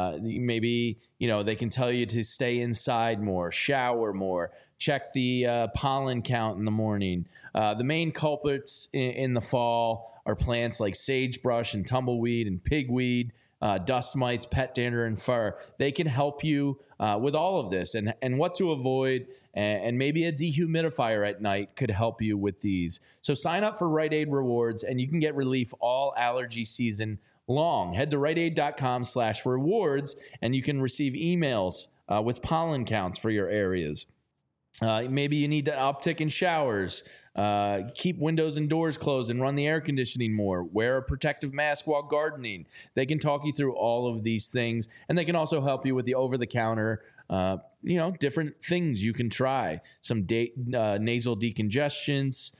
Maybe, they can tell you to stay inside more, shower more, check the pollen count in the morning. The main culprits in the fall are plants like sagebrush and tumbleweed and pigweed, dust mites, pet dander, and fur. They can help you with all of this and what to avoid, and maybe a dehumidifier at night could help you with these. So sign up for Rite Aid Rewards, and you can get relief all allergy season long. Head to riteaid.com/rewards, and you can receive emails with pollen counts for your areas. Maybe you need to uptick in showers. Keep windows and doors closed and run the air conditioning more. Wear a protective mask while gardening. They can talk you through all of these things, and they can also help you with the over-the-counter, different things you can try. Some nasal decongestions,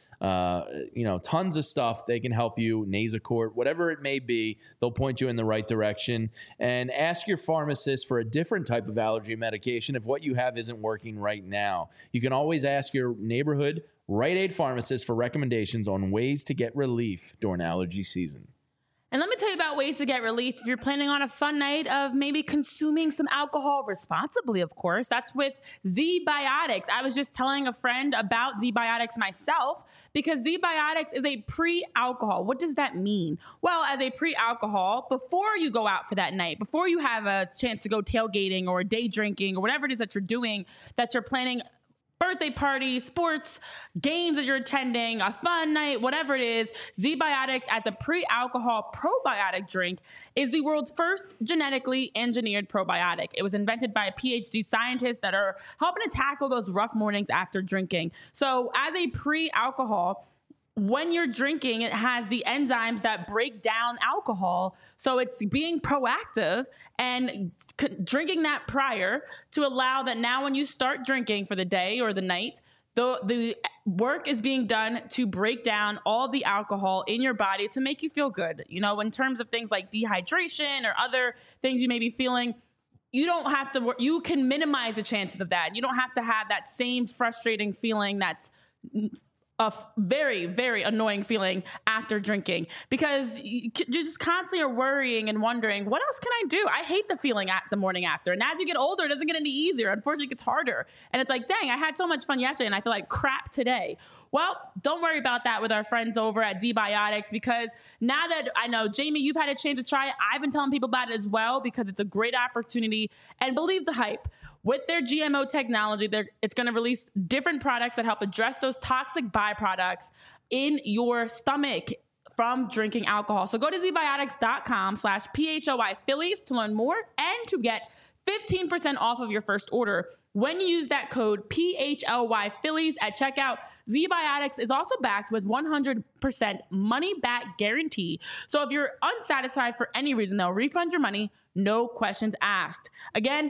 tons of stuff. They can help you, Nasacort, whatever it may be. They'll point you in the right direction. And ask your pharmacist for a different type of allergy medication if what you have isn't working right now. You can always ask your neighborhood Rite Aid pharmacist for recommendations on ways to get relief during allergy season. And let me tell you about ways to get relief if you're planning on a fun night of maybe consuming some alcohol responsibly, of course. That's with ZBiotics. I was just telling a friend about ZBiotics myself because ZBiotics is a pre-alcohol. What does that mean? Well, as a pre-alcohol, before you go out for that night, before you have a chance to go tailgating or day drinking or whatever it is that you're doing, that you're planning, birthday party, sports, games that you're attending, a fun night, whatever it is, ZBiotics as a pre-alcohol probiotic drink is the world's first genetically engineered probiotic. It was invented by PhD scientists that are helping to tackle those rough mornings after drinking. So as a pre-alcohol, when you're drinking, it has the enzymes that break down alcohol. So it's being proactive and drinking that prior to allow that now when you start drinking for the day or the night, the work is being done to break down all the alcohol in your body to make you feel good. In terms of things like dehydration or other things you may be feeling, you don't have to, you can minimize the chances of that. You don't have to have that same frustrating feeling that's a very, very annoying feeling after drinking because you just constantly are worrying and wondering, what else can I do? I hate the feeling at the morning after. And as you get older, it doesn't get any easier. Unfortunately, it gets harder. And it's like, dang, I had so much fun yesterday and I feel like crap today. Well, don't worry about that with our friends over at ZBiotics because now that I know, Jamie, you've had a chance to try it. I've been telling people about it as well because it's a great opportunity. And believe the hype. With their GMO technology, it's going to release different products that help address those toxic byproducts in your stomach from drinking alcohol. So go to zbiotics.com/PHLY Phillies to learn more and to get 15% off of your first order. When you use that code PHLY Phillies at checkout, ZBiotics is also backed with 100% money back guarantee. So if you're unsatisfied for any reason, they'll refund your money, no questions asked. Again,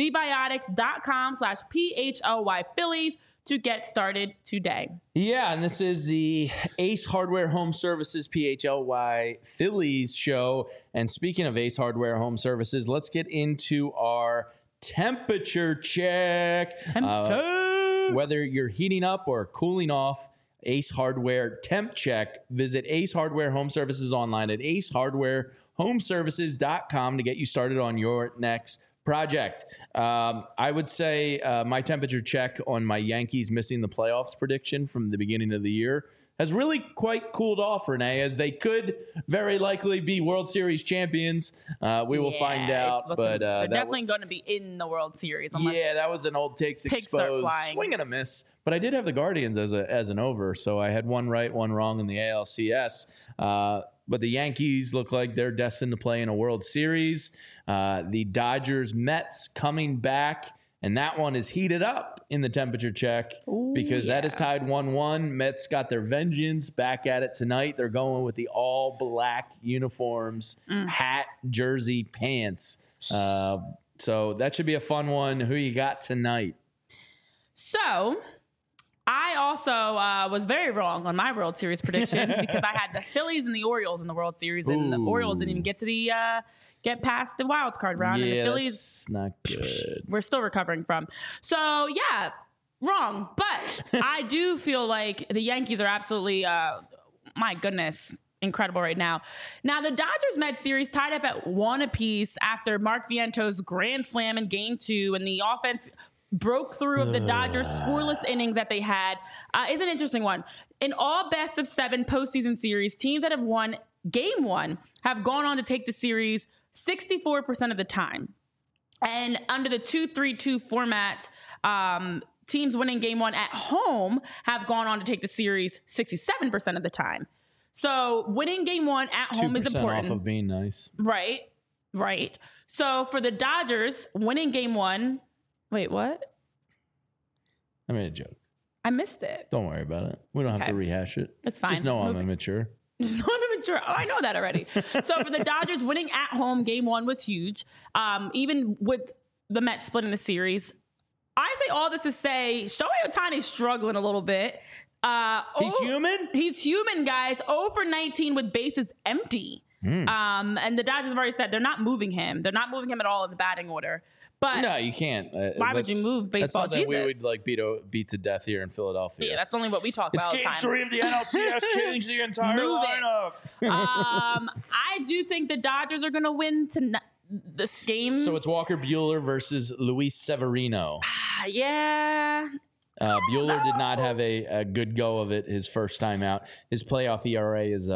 zbiotics.com/PHLY Phillies to get started today. Yeah, and this is the Ace Hardware Home Services PHLY Phillies show. And speaking of Ace Hardware Home Services, let's get into our temperature check. Whether you're heating up or cooling off, Ace Hardware Temp Check. Visit Ace Hardware Home Services online at acehardwarehomeservices.com to get you started on your next project. I would say my temperature check on my Yankees missing the playoffs prediction from the beginning of the year has really quite cooled off, Renee, as they could very likely be World Series champions. We will find out. But they're definitely going to be in the World Series. Yeah, that was an old takes exposed. Swing and a miss. But I did have the Guardians as an over, so I had one right, one wrong in the ALCS. But the Yankees look like they're destined to play in a World Series. The Dodgers, Mets coming back, and that one is heated up in the temperature check because that is tied 1-1. Mets got their vengeance, back at it tonight. They're going with the all-black uniforms, hat, jersey, pants. So that should be a fun one. Who you got tonight? So I also was very wrong on my World Series predictions because I had the Phillies and the Orioles in the World Series, and the Orioles didn't even get to get past the wild card round. Yeah, and the Phillies, that's not good. We're still recovering from. So yeah, wrong. But I do feel like the Yankees are absolutely, my goodness, incredible right now. Now the Dodgers-Mets series tied up at 1 apiece after Mark Viento's grand slam in Game 2, and the offense broke through of the Dodgers' scoreless innings that they had. Is an interesting one. In all best-of-7 postseason series, teams that have won Game 1 have gone on to take the series 64% of the time. And under the 2-3-2 format, teams winning Game 1 at home have gone on to take the series 67% of the time. So winning Game 1 at home is important. 2% off of being nice. Right. So for the Dodgers, winning Game 1... Wait, what? I made a joke. I missed it. Don't worry about it. We don't have to rehash it. It's fine. Just know I'm immature. Just know I'm immature. Oh, I know that already. So for the Dodgers, winning at home Game 1 was huge. Even with the Mets splitting the series. I say all this to say Shohei Ohtani's struggling a little bit. He's human? He's human, guys. 0 for 19 with bases empty. And the Dodgers have already said they're not moving him. They're not moving him at all in the batting order. But no, you can't. Why would you move baseball? That's something we would beat to death here in Philadelphia. Yeah, that's only what we talk about all the time. It's Game 3 of the NLCS. Change the entire lineup. I do think the Dodgers are going to win this game. So it's Walker Buehler versus Luis Severino. Yeah. Buehler did not have a good go of it his first time out. His playoff ERA is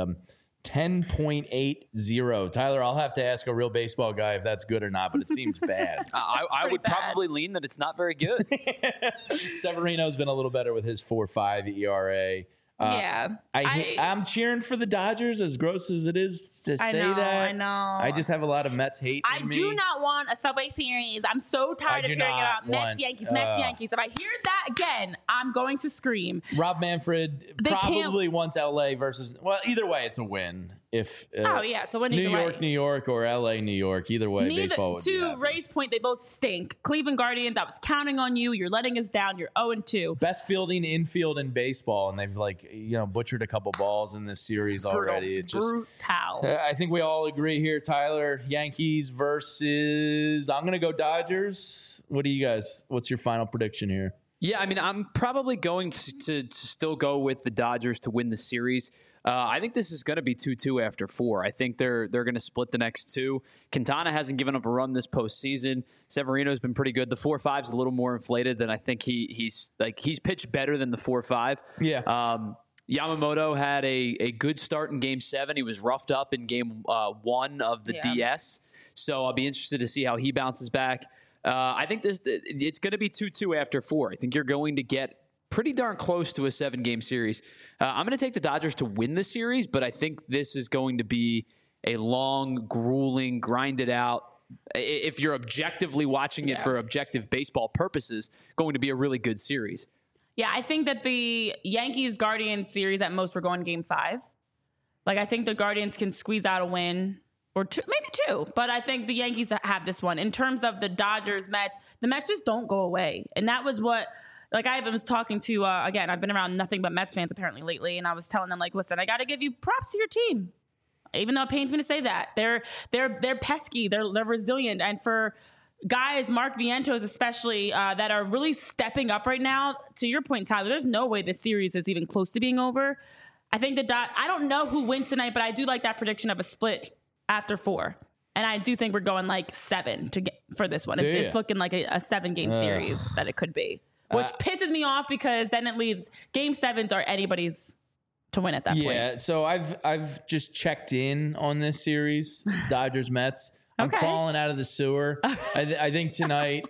10.80. Tyler, I'll have to ask a real baseball guy if that's good or not, but it seems bad. I would probably lean that it's not very good. Severino's been a little better with his 4.5 ERA. I'm cheering for the Dodgers, as gross as it is to say that. I know. I just have a lot of Mets hate in me. do not want a Subway Series. I'm so tired of hearing about Mets, Yankees. If I hear that again, I'm going to scream. Rob Manfred probably wants LA versus... Well, either way, it's a win. If it's a win either way. New York, or LA, New York. Either way, baseball would be happy. To Ray's point, they both stink. Cleveland Guardians, I was counting on you. You're letting us down. You're 0-2. Best fielding infield in baseball, and they've butchered a couple balls in this series already. It's just brutal. I think we all agree here, Tyler. Yankees versus... I'm going to go Dodgers. What do you guys... What's your final prediction here? Yeah, I mean, I'm probably going to still go with the Dodgers to win the series. I think this is going to be 2-2 after 4. I think they're going to split the next 2. Quintana hasn't given up a run this postseason. Severino's been pretty good. The 4.5 is a little more inflated than I think he's pitched better than the 4.5. Yeah. Yamamoto had a good start in Game 7. He was roughed up in Game 1 of the DS. So I'll be interested to see how he bounces back. I think it's going to be 2-2 after 4. I think you're going to get pretty darn close to a 7-game series. I'm going to take the Dodgers to win the series, but I think this is going to be a long, grueling, grinded out, if you're objectively watching it for objective baseball purposes, going to be a really good series. Yeah, I think that the Yankees-Guardians series at most we're going Game 5. Like, I think the Guardians can squeeze out a win or two, maybe 2. But I think the Yankees have this one. In terms of the Dodgers-Mets, the Mets just don't go away. And that was what, like, I was talking to, again, I've been around nothing but Mets fans apparently lately. And I was telling them, like, listen, I got to give you props to your team. Even though it pains me to say that. They're pesky. They're resilient. And for guys, Mark Vientos especially, that are really stepping up right now, to your point, Tyler, there's no way this series is even close to being over. I think I don't know who wins tonight, but I do like that prediction of a split after 4. And I do think we're going like 7 for this one. It's looking like a 7-game series that it could be, which pisses me off because then it leaves Game 7s are anybody's to win at that point. Yeah, so I've just checked in on this series, Dodgers Mets. I'm crawling out of the sewer. I think tonight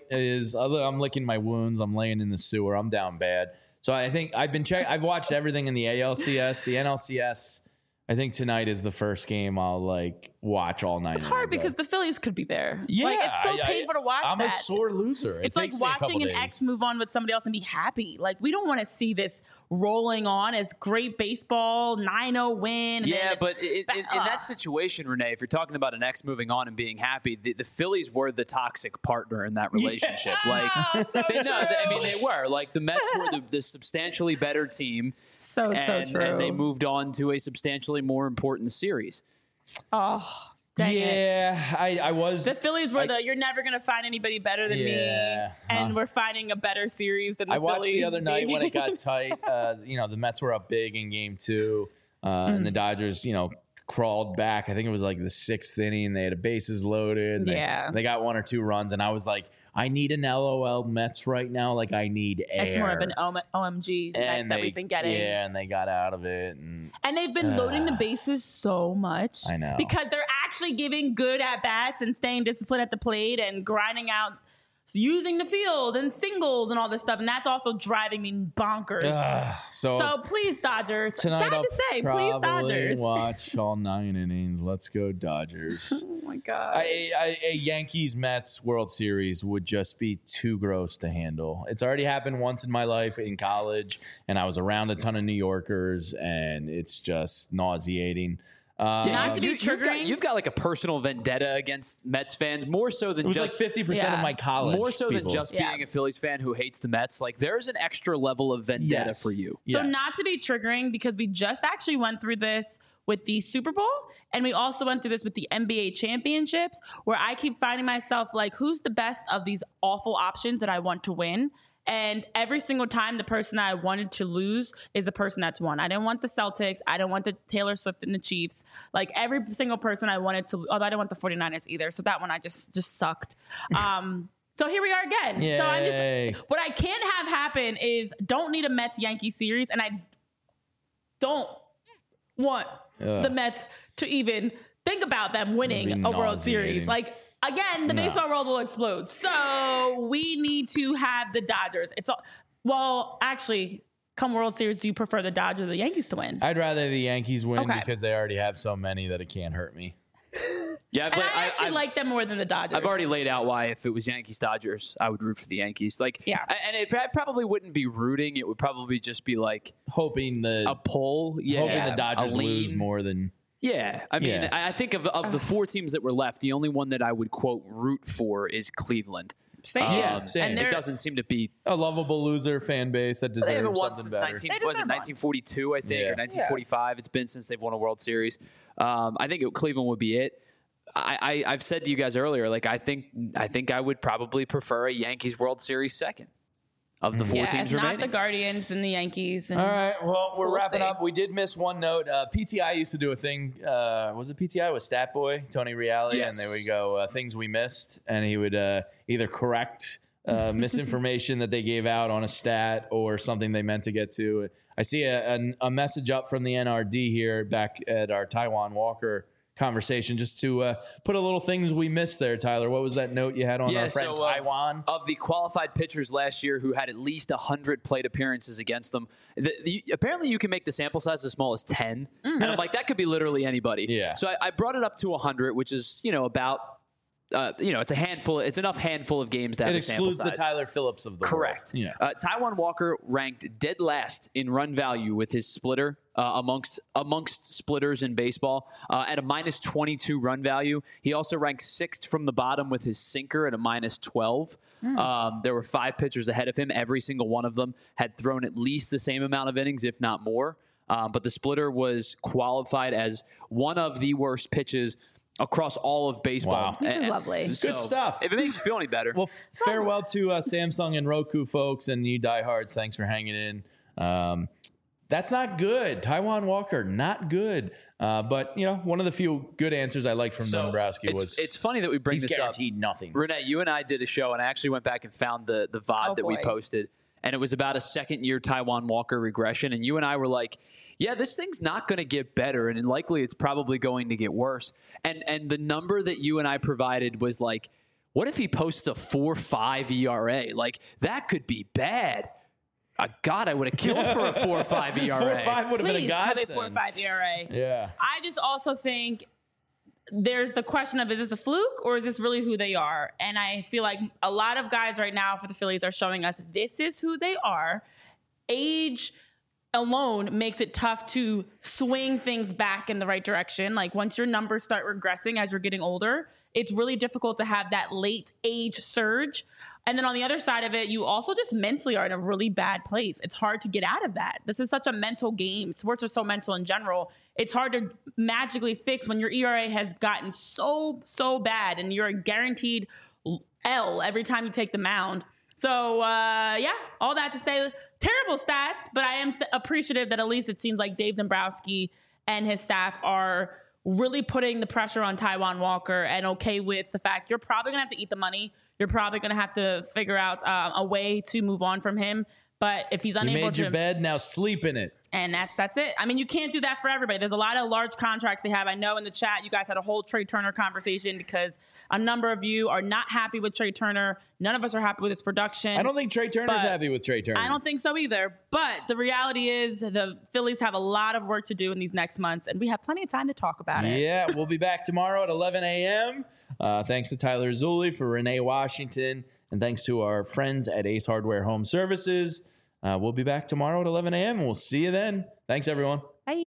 I'm licking my wounds. I'm laying in the sewer. I'm down bad. So I think I've watched everything in the ALCS, the NLCS. I think tonight is the first game I'll like watch all night. It's hard because the Phillies could be there. Yeah, like, it's so painful to watch. I'm a sore loser. It's like watching an ex move on with somebody else and be happy. Like, we don't want to see this rolling on as great baseball, 9-0 win. Yeah, but in that situation, Renee, if you're talking about an ex moving on and being happy, the Phillies were the toxic partner in that relationship. Yeah. Like, they were. Like, the Mets were the substantially better team. So true. And they moved on to a substantially more important series. Oh, dang it. Yeah, I was. The Phillies were you're never going to find anybody better than me. And we're finding a better series than the Phillies. I watched the other night when it got tight. The Mets were up big in Game 2. And the Dodgers, crawled back. I think it was like the 6th inning. They had bases loaded. They got 1 or 2 runs. And I was like, I need an LOL Mets right now. Like, I need air. It's more of an OMG Mets that we've been getting. Yeah, and they got out of it. And they've been loading the bases so much. I know. Because they're actually giving good at-bats and staying disciplined at the plate and grinding out, using the field and singles and all this stuff. And that's also driving me bonkers. So please, Dodgers. Tonight Sad to say, please, Dodgers. Watch all 9 innings. Let's go, Dodgers. Oh, my God. A Yankees-Mets World Series would just be too gross to handle. It's already happened once in my life in college, and I was around a ton of New Yorkers, and it's just nauseating. Not to be triggering. You've got like a personal vendetta against Mets fans, more so than just like 50% of my college. More so people. than just being a Phillies fan who hates the Mets. Like, there's an extra level of vendetta for you. So not to be triggering, because we just actually went through this with the Super Bowl, and we also went through this with the NBA championships, where I keep finding myself like, who's the best of these awful options that I want to win? And every single time, the person I wanted to lose is the person that's won. I didn't want the Celtics. I didn't want the Taylor Swift and the Chiefs. Like, every single person I wanted to, although I didn't want the 49ers either. So that one I just sucked. So here we are again. Yay. So I'm just, what I can't have happen is don't need a Mets-Yankee series. And I don't want the Mets to even think about them winning a World Series. Like, again, the baseball world will explode. So we need to have the Dodgers. Actually, come World Series, do you prefer the Dodgers or the Yankees to win? I'd rather the Yankees win because they already have so many that it can't hurt me. Yeah, I actually like them more than the Dodgers. I've already laid out why if it was Yankees-Dodgers, I would root for the Yankees. And it probably wouldn't be rooting. It would probably just be like hoping a pull. Yeah, hoping the Dodgers lose more than. Yeah, I mean, I think of the 4 teams that were left, the only one that I would, quote, root for is Cleveland. Same. Same. And it doesn't seem to be a lovable loser fan base that deserves they haven't won something since better. 1942, I think, or 1945. It's been since they've won a World Series. I think Cleveland would be it. I've said to you guys earlier, like, I think I would probably prefer a Yankees World Series second of the 4 teams remaining. Not the Guardians and the Yankees. And all right, well, we're wrapping up. We did miss one note. PTI used to do a thing. Was it PTI with Stat Boy, Tony Reale? Yes. And there we go, things we missed. And he would either correct misinformation that they gave out on a stat or something they meant to get to. I see a message up from the NRD here back at our Taiwan Walker conversation. Just to put a little things we missed there, Tyler. What was that note you had on our friend Taijuan? Of the qualified pitchers last year who had at least 100 plate appearances against them, apparently you can make the sample size as small as 10. And I'm like, that could be literally anybody. Yeah. So I brought it up to 100, which is, about it's a handful. It's enough handful of games to have a sample size. It excludes the Tyler Phillips of the Correct. world. Yeah. Taijuan Walker ranked dead last in run value with his splitter amongst splitters in baseball at a minus 22 run value. He also ranked 6th from the bottom with his sinker at a minus 12. There were 5 pitchers ahead of him. Every single one of them had thrown at least the same amount of innings, if not more. But the splitter was qualified as one of the worst pitches across all of baseball. Wow. This is lovely. Good stuff. If it makes you feel any better. Well, farewell to Samsung and Roku folks and you diehards. Thanks for hanging in. That's not good. Taijuan Walker, not good. But, one of the few good answers I liked from Dombrowski was... It's funny that we bring this up. He's guaranteed nothing. Renee, you and I did a show, and I actually went back and found the VOD that we posted. And it was about a second-year Taijuan Walker regression. And you and I were like... yeah, this thing's not going to get better, and likely it's probably going to get worse. And the number that you and I provided was like, what if he posts a 4.5 ERA? Like, that could be bad. God, I would have killed for a 4.5 ERA. 4.5 would have been a godsend. 4.5 ERA. Yeah. I just also think there's the question of, is this a fluke or is this really who they are? And I feel like a lot of guys right now for the Phillies are showing us this is who they are. Age alone makes it tough to swing things back in the right direction. Like once your numbers start regressing as you're getting older, it's really difficult to have that late age surge. And then on the other side of it, you also just mentally are in a really bad place. It's hard to get out of that. This is such a mental game. Sports are so mental in general. It's hard to magically fix when your ERA has gotten so bad and you're a guaranteed L every time you take the mound. So, all that to say, terrible stats, but I am appreciative that at least it seems like Dave Dombrowski and his staff are really putting the pressure on Taijuan Walker and okay with the fact you're probably going to have to eat the money. You're probably going to have to figure out a way to move on from him. But if he's unable to... You made your bed, now sleep in it. And that's it. I mean, you can't do that for everybody. There's a lot of large contracts they have. I know in the chat you guys had a whole Trey Turner conversation because a number of you are not happy with Trey Turner. None of us are happy with his production. I don't think Trey Turner's happy with Trey Turner. I don't think so either. But the reality is the Phillies have a lot of work to do in these next months, and we have plenty of time to talk about it. Yeah, we'll be back tomorrow at 11 a.m. Thanks to Tyler Zulli, for Renee Washington, and thanks to our friends at Ace Hardware Home Services. We'll be back tomorrow at 11 a.m. and we'll see you then. Thanks, everyone. Bye.